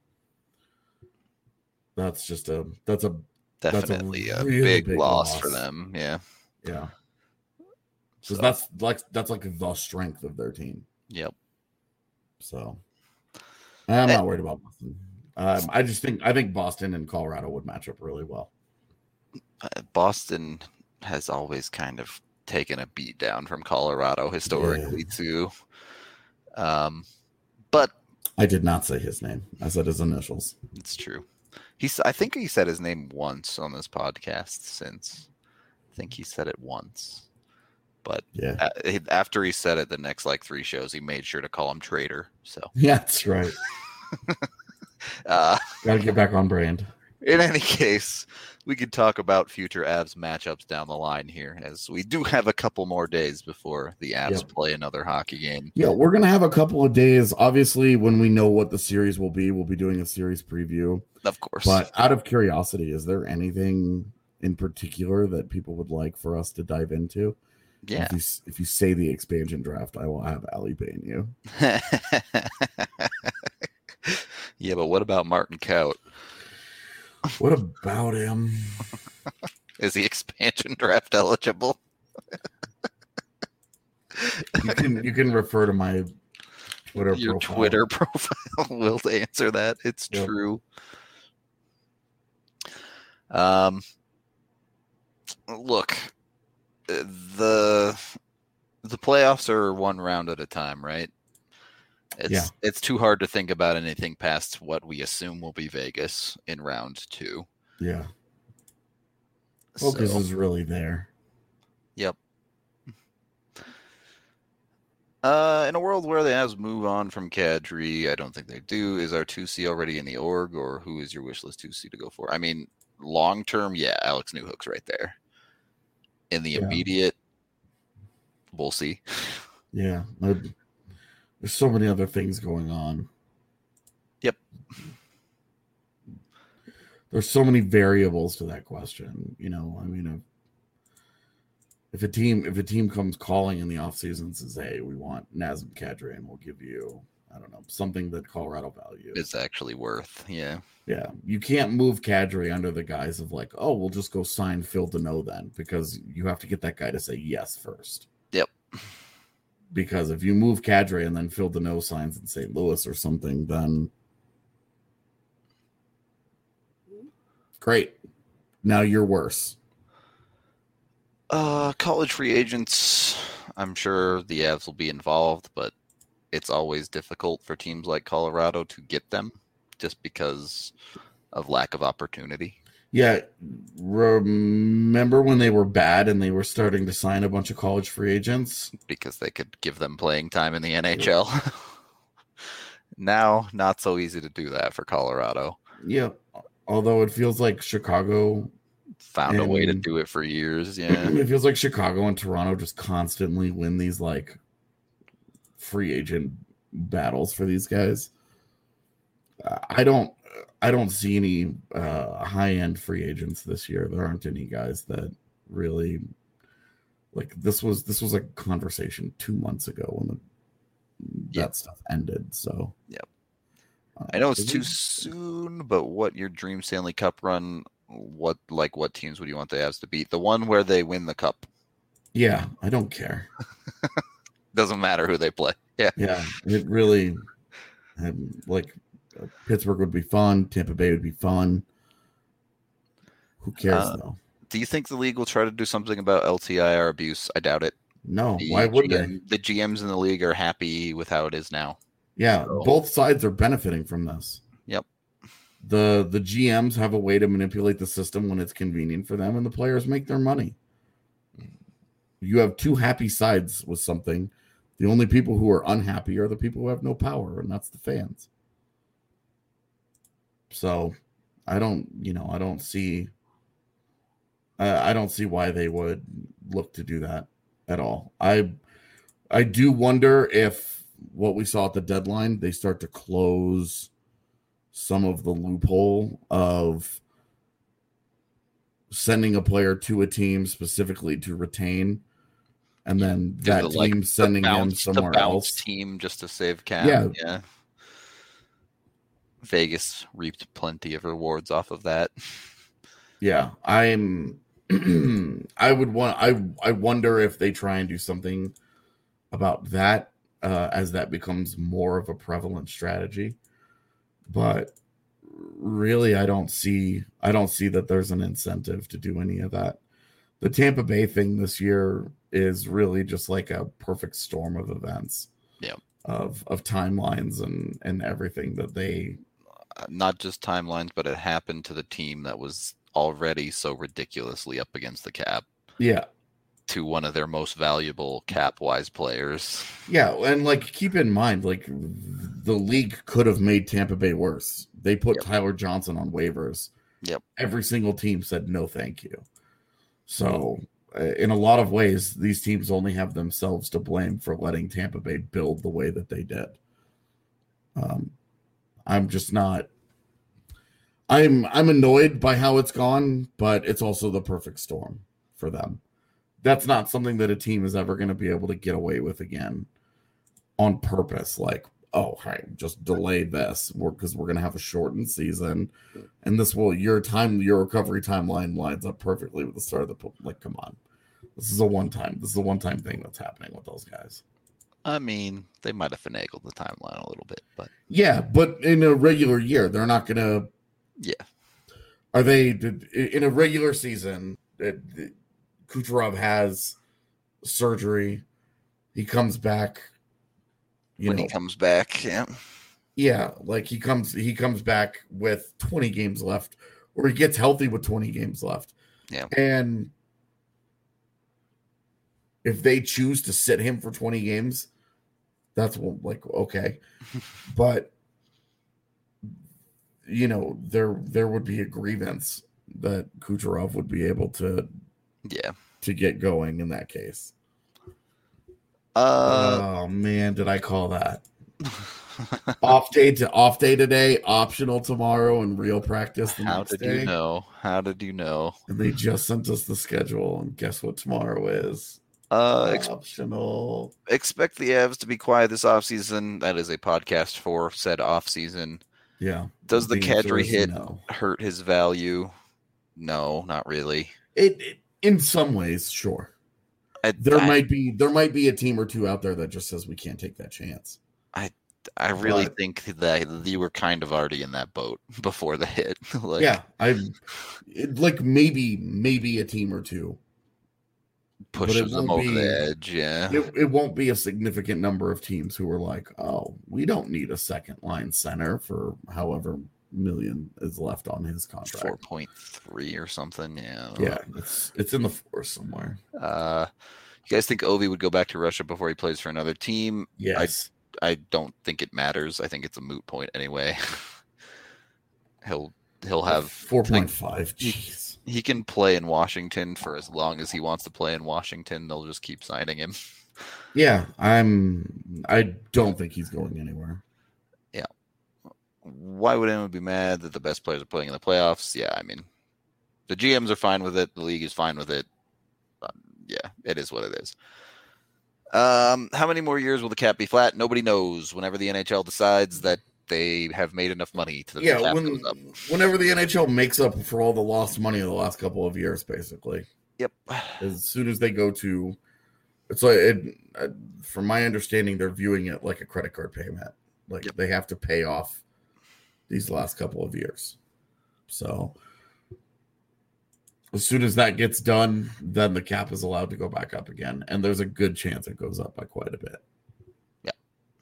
Speaker 3: That's just a that's a
Speaker 2: definitely
Speaker 3: that's a,
Speaker 2: a,
Speaker 3: really
Speaker 2: big,
Speaker 3: big
Speaker 2: loss,
Speaker 3: loss
Speaker 2: for them. Yeah.
Speaker 3: Yeah.
Speaker 2: So
Speaker 3: So that's like that's like the strength of their team.
Speaker 2: Yep.
Speaker 3: So I'm not worried about Boston. Um, I just think I think Boston and Colorado would match up really well.
Speaker 2: Uh, Boston has always kind of taken a beat down from Colorado historically
Speaker 3: Yeah.
Speaker 2: too. Um, but
Speaker 3: I did not say his name. I said his initials.
Speaker 2: It's true. He's. I think he said his name once on this podcast. Since I think he said it once, but
Speaker 3: Yeah,
Speaker 2: a- after he said it, the next like three shows, he made sure to call him traitor. So
Speaker 3: yeah, that's right.
Speaker 2: uh,
Speaker 3: Got to get back on brand.
Speaker 2: in any case, we could talk about future Avs matchups down the line here, as we do have a couple more days before the Avs
Speaker 3: Yep.
Speaker 2: play another hockey game.
Speaker 3: Yeah, we're gonna have a couple of days. Obviously, when we know what the series will be, we'll be doing a series preview.
Speaker 2: Of course,
Speaker 3: But out of curiosity, is there anything in particular that people would like for us to dive into?
Speaker 2: yeah.
Speaker 3: If you, if you say the expansion draft, I will have Ali bane you.
Speaker 2: Yeah, but what about Martin Kaut?
Speaker 3: What about him?
Speaker 2: Is he expansion draft eligible?
Speaker 3: You can you can refer to my Twitter
Speaker 2: Your
Speaker 3: profile.
Speaker 2: Twitter profile will answer that. It's
Speaker 3: Yep.
Speaker 2: true. Um, look, the the playoffs are one round at a time, right? It's
Speaker 3: Yeah.
Speaker 2: it's too hard to think about anything past what we assume will be Vegas in round two.
Speaker 3: Yeah, focus
Speaker 2: So,
Speaker 3: is really there.
Speaker 2: yep. Uh, in a world where the Avs move on from Kadri, I don't think they do. Is our two C already in the org, or who is your wish list two C to go for? I mean, long term, yeah, Alex Newhook's right there. In the
Speaker 3: Yeah.
Speaker 2: immediate, we'll see.
Speaker 3: Yeah, I- there's so many other things going on.
Speaker 2: Yep.
Speaker 3: There's so many variables to that question. You know, I mean, if, if a team if a team comes calling in the offseason and says, "Hey, we want Nazem Kadri, and we'll give you, I don't know, something that Colorado values,"
Speaker 2: It's actually worth, yeah.
Speaker 3: yeah, you can't move Kadri under the guise of like, "Oh, we'll just go sign Phil Deneau then," because you have to get that guy to say yes first.
Speaker 2: Yep.
Speaker 3: Because if you move Kadri and then Phil Deneau signs in Saint Louis or something, then great. Now you're worse.
Speaker 2: Uh, college free agents, I'm sure the Avs will be involved, but it's always difficult for teams like Colorado to get them just because of lack of opportunity.
Speaker 3: Yeah. Remember when they were bad and they were starting to sign a bunch of college free agents?
Speaker 2: Because they could give them playing time in the N H L. Now, not so easy to do that for Colorado.
Speaker 3: Yeah. Although it feels like Chicago
Speaker 2: Found a way to
Speaker 3: And-
Speaker 2: do it for years, yeah.
Speaker 3: it feels like Chicago and Toronto just constantly win these like free agent battles for these guys. Uh, I don't I don't see any uh, high end free agents this year. There aren't any guys that really like this was this was a conversation two months ago when the,
Speaker 2: Yeah.
Speaker 3: that stuff ended. So
Speaker 2: Yep.
Speaker 3: uh,
Speaker 2: I know it's
Speaker 3: it
Speaker 2: too
Speaker 3: was-
Speaker 2: soon, but what your dream Stanley Cup run, what like what teams would you want the Avs to beat? The one where they win the cup.
Speaker 3: Yeah, I don't care.
Speaker 2: Doesn't matter who they play. Yeah.
Speaker 3: Yeah, it really had like uh, Pittsburgh would be fun. Tampa Bay would be fun. Who cares
Speaker 2: Uh,
Speaker 3: though?
Speaker 2: Do you think the league will try to do something about L T I R abuse? I doubt it.
Speaker 3: No,
Speaker 2: The
Speaker 3: why would
Speaker 2: G M,
Speaker 3: they?
Speaker 2: The G Ms in the league are happy with how it is now.
Speaker 3: Yeah,
Speaker 2: So-
Speaker 3: both sides are benefiting from this.
Speaker 2: Yep.
Speaker 3: The the G Ms have a way to manipulate the system when it's convenient for them, and the players make their money. You have two happy sides with something. The only people who are unhappy are the people who have no power, and that's the fans. So I don't, you know, I don't see I, I don't see why they would look to do that at all. I I do wonder if what we saw at the deadline, they start to close some of the loophole of sending a player to a team specifically to retain, and then
Speaker 2: Do
Speaker 3: that
Speaker 2: the,
Speaker 3: team
Speaker 2: like,
Speaker 3: sending
Speaker 2: the
Speaker 3: him
Speaker 2: bounce,
Speaker 3: somewhere
Speaker 2: the bounce
Speaker 3: else.
Speaker 2: team just to save cap.
Speaker 3: Yeah.
Speaker 2: yeah. Vegas reaped plenty of rewards off of that.
Speaker 3: Yeah, I'm. I would want. I I wonder if they try and do something about that uh, as that becomes more of a prevalent strategy. But really, I don't see. I don't see that there's an incentive to do any of that. The Tampa Bay thing this year is really just like a perfect storm of events.
Speaker 2: Yeah.
Speaker 3: Of of timelines and and everything that they.
Speaker 2: Uh, not just timelines, but it happened to the team that was already so ridiculously up against the cap.
Speaker 3: Yeah.
Speaker 2: To one of their most valuable cap-wise players.
Speaker 3: Yeah, and like keep in mind, like the league could have made Tampa Bay worse. They put
Speaker 2: Yep.
Speaker 3: Tyler Johnson on waivers.
Speaker 2: Yep.
Speaker 3: Every single team said no, thank you. So, uh, in a lot of ways, these teams only have themselves to blame for letting Tampa Bay build the way that they did. Um, I'm just not. I'm I'm annoyed by how it's gone, but it's also the perfect storm for them. That's not something that a team is ever going to be able to get away with again on purpose. Like, oh, hey, just delay this because we're, we're going to have a shortened season, and this will your time your recovery timeline lines up perfectly with the start of the like. Come on, this is a one time. This is a one time thing that's happening with those guys.
Speaker 2: I mean, they might have finagled the timeline a little bit, but
Speaker 3: yeah, but in a regular year, they're not going to.
Speaker 2: Yeah,
Speaker 3: are they in a regular season? It, Kucherov has surgery. He comes back. You
Speaker 2: when
Speaker 3: know,
Speaker 2: he comes back, yeah,
Speaker 3: yeah, like he comes, he comes back with twenty games left, or he gets healthy with twenty games left.
Speaker 2: Yeah,
Speaker 3: and if they choose to sit him for twenty games, that's like okay, but you know, there there would be a grievance that Kucherov would be able to.
Speaker 2: Yeah.
Speaker 3: To get going in that case.
Speaker 2: Uh,
Speaker 3: oh man, did I call that? off day to off day today, optional tomorrow, and real practice the
Speaker 2: How
Speaker 3: next
Speaker 2: did
Speaker 3: day.
Speaker 2: you know? How did you know?
Speaker 3: And they just sent us the schedule, and guess what tomorrow is?
Speaker 2: Uh, ex-
Speaker 3: optional.
Speaker 2: Expect the Avs to be quiet this offseason. That is a podcast for said offseason.
Speaker 3: Yeah.
Speaker 2: Does the, the Kadri hit
Speaker 3: no.
Speaker 2: hurt his value? No, not really.
Speaker 3: It, it in some ways, sure.
Speaker 2: I,
Speaker 3: there
Speaker 2: I,
Speaker 3: might be there might be a team or two out there that just says we can't take that chance.
Speaker 2: I I really
Speaker 3: but,
Speaker 2: think that you were kind of already in that boat before the hit. like,
Speaker 3: yeah, I like maybe maybe a team or two
Speaker 2: pushes them over
Speaker 3: be,
Speaker 2: the edge. Yeah,
Speaker 3: it, it won't be a significant number of teams who are like, oh, we don't need a second line center for however million is left on his contract.
Speaker 2: four point three or something. Yeah.
Speaker 3: Yeah. It's, it's in the four somewhere.
Speaker 2: Uh, you guys think Ovi would go back to Russia before he plays for another team?
Speaker 3: Yes.
Speaker 2: I, I don't think it matters. I think it's a moot point anyway. he'll, he'll have
Speaker 3: four point five. Jeez.
Speaker 2: He, he can play in Washington for as long as he wants to play in Washington. They'll just keep signing him.
Speaker 3: Yeah. I'm, I don't think he's going anywhere.
Speaker 2: Yeah. Why would anyone be mad that the best players are playing in the playoffs? Yeah, I mean, the G Ms are fine with it. The league is fine with it. Um, yeah, it is what it is. Um, how many more years will the cap be flat? Nobody knows. Whenever the N H L decides that they have made enough money to the
Speaker 3: yeah,
Speaker 2: cap
Speaker 3: when,
Speaker 2: goes up.
Speaker 3: Whenever the N H L makes up for all the lost money of the last couple of years, basically.
Speaker 2: Yep.
Speaker 3: As soon as they go to, it's like, it, uh, from my understanding, they're viewing it like a credit card payment. Like yep. They have to pay off these last couple of years. So as soon as that gets done, then the cap is allowed to go back up again. And there's a good chance it goes up by quite a bit.
Speaker 2: Yeah.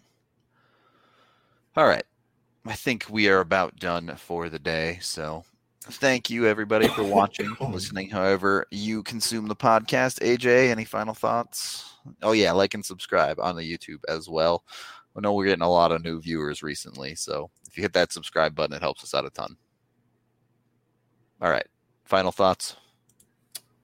Speaker 2: All right. I think we are about done for the day. So thank you, everybody, for watching, listening, however you consume the podcast. A J, any final thoughts? Oh, yeah, like and subscribe on the YouTube as well. I know we're getting a lot of new viewers recently, so if you hit that subscribe button, it helps us out a ton. All right. Final thoughts?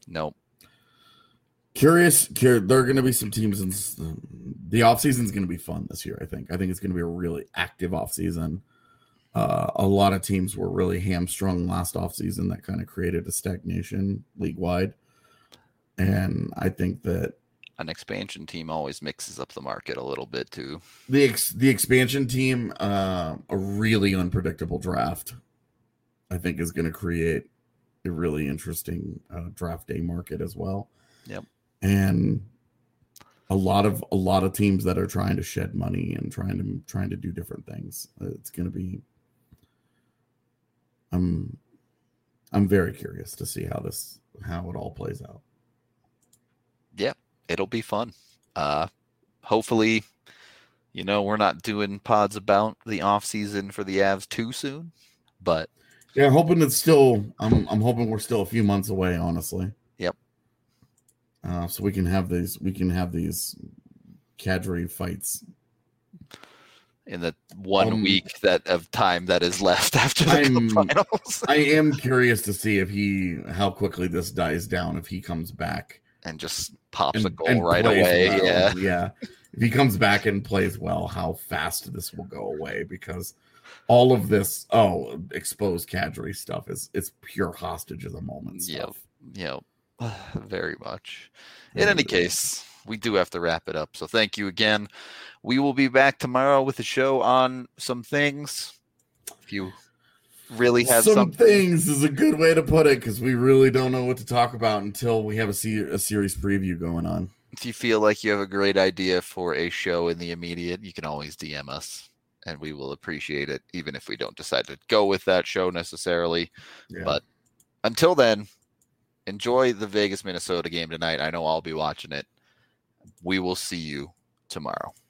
Speaker 2: Nope.
Speaker 3: Curious, cur- there are going to be some teams in s- the offseason is going to be fun this year. I think. I think it's going to be a really active offseason. Uh, a lot of teams were really hamstrung last offseason. That kind of created a stagnation league wide, and I think that
Speaker 2: An expansion team always mixes up the market a little bit too.
Speaker 3: the ex- the expansion team, uh, a really unpredictable draft, I think is going to create a really interesting uh, draft day market as well.
Speaker 2: Yep.
Speaker 3: And a lot of a lot of teams that are trying to shed money and trying to trying to do different things. It's going to be. I'm I'm very curious to see how this how it all plays out.
Speaker 2: Yeah, it'll be fun. Uh, hopefully, you know, we're not doing pods about the off season for the Avs too soon, but
Speaker 3: yeah, hoping it's still. I'm I'm hoping we're still a few months away. Honestly.
Speaker 2: Yep.
Speaker 3: Uh, so we can have these. We can have these Kadri fights
Speaker 2: in the one
Speaker 3: um,
Speaker 2: week that of time that is left after the
Speaker 3: I'm,
Speaker 2: finals.
Speaker 3: I am curious to see if he how quickly this dies down if he comes back
Speaker 2: and just pops
Speaker 3: and,
Speaker 2: a goal right away.
Speaker 3: Well.
Speaker 2: Yeah,
Speaker 3: yeah. If he comes back and plays well, how fast this will go away because all of this oh exposed Kadri stuff is it's pure hostage of the moment stuff.
Speaker 2: Yep. Yep. Very much. In any case, we do have to wrap it up. So thank you again. We will be back tomorrow with a show on some things. If you really have
Speaker 3: some
Speaker 2: something.
Speaker 3: things is a good way to put it because we really don't know what to talk about until we have a, se- a series preview going on.
Speaker 2: If you feel like you have a great idea for a show in the immediate, you can always D M us and we will appreciate it, even if we don't decide to go with that show necessarily. Yeah. But until then, enjoy the Vegas Minnesota game tonight. I know I'll be watching it. We will see you tomorrow.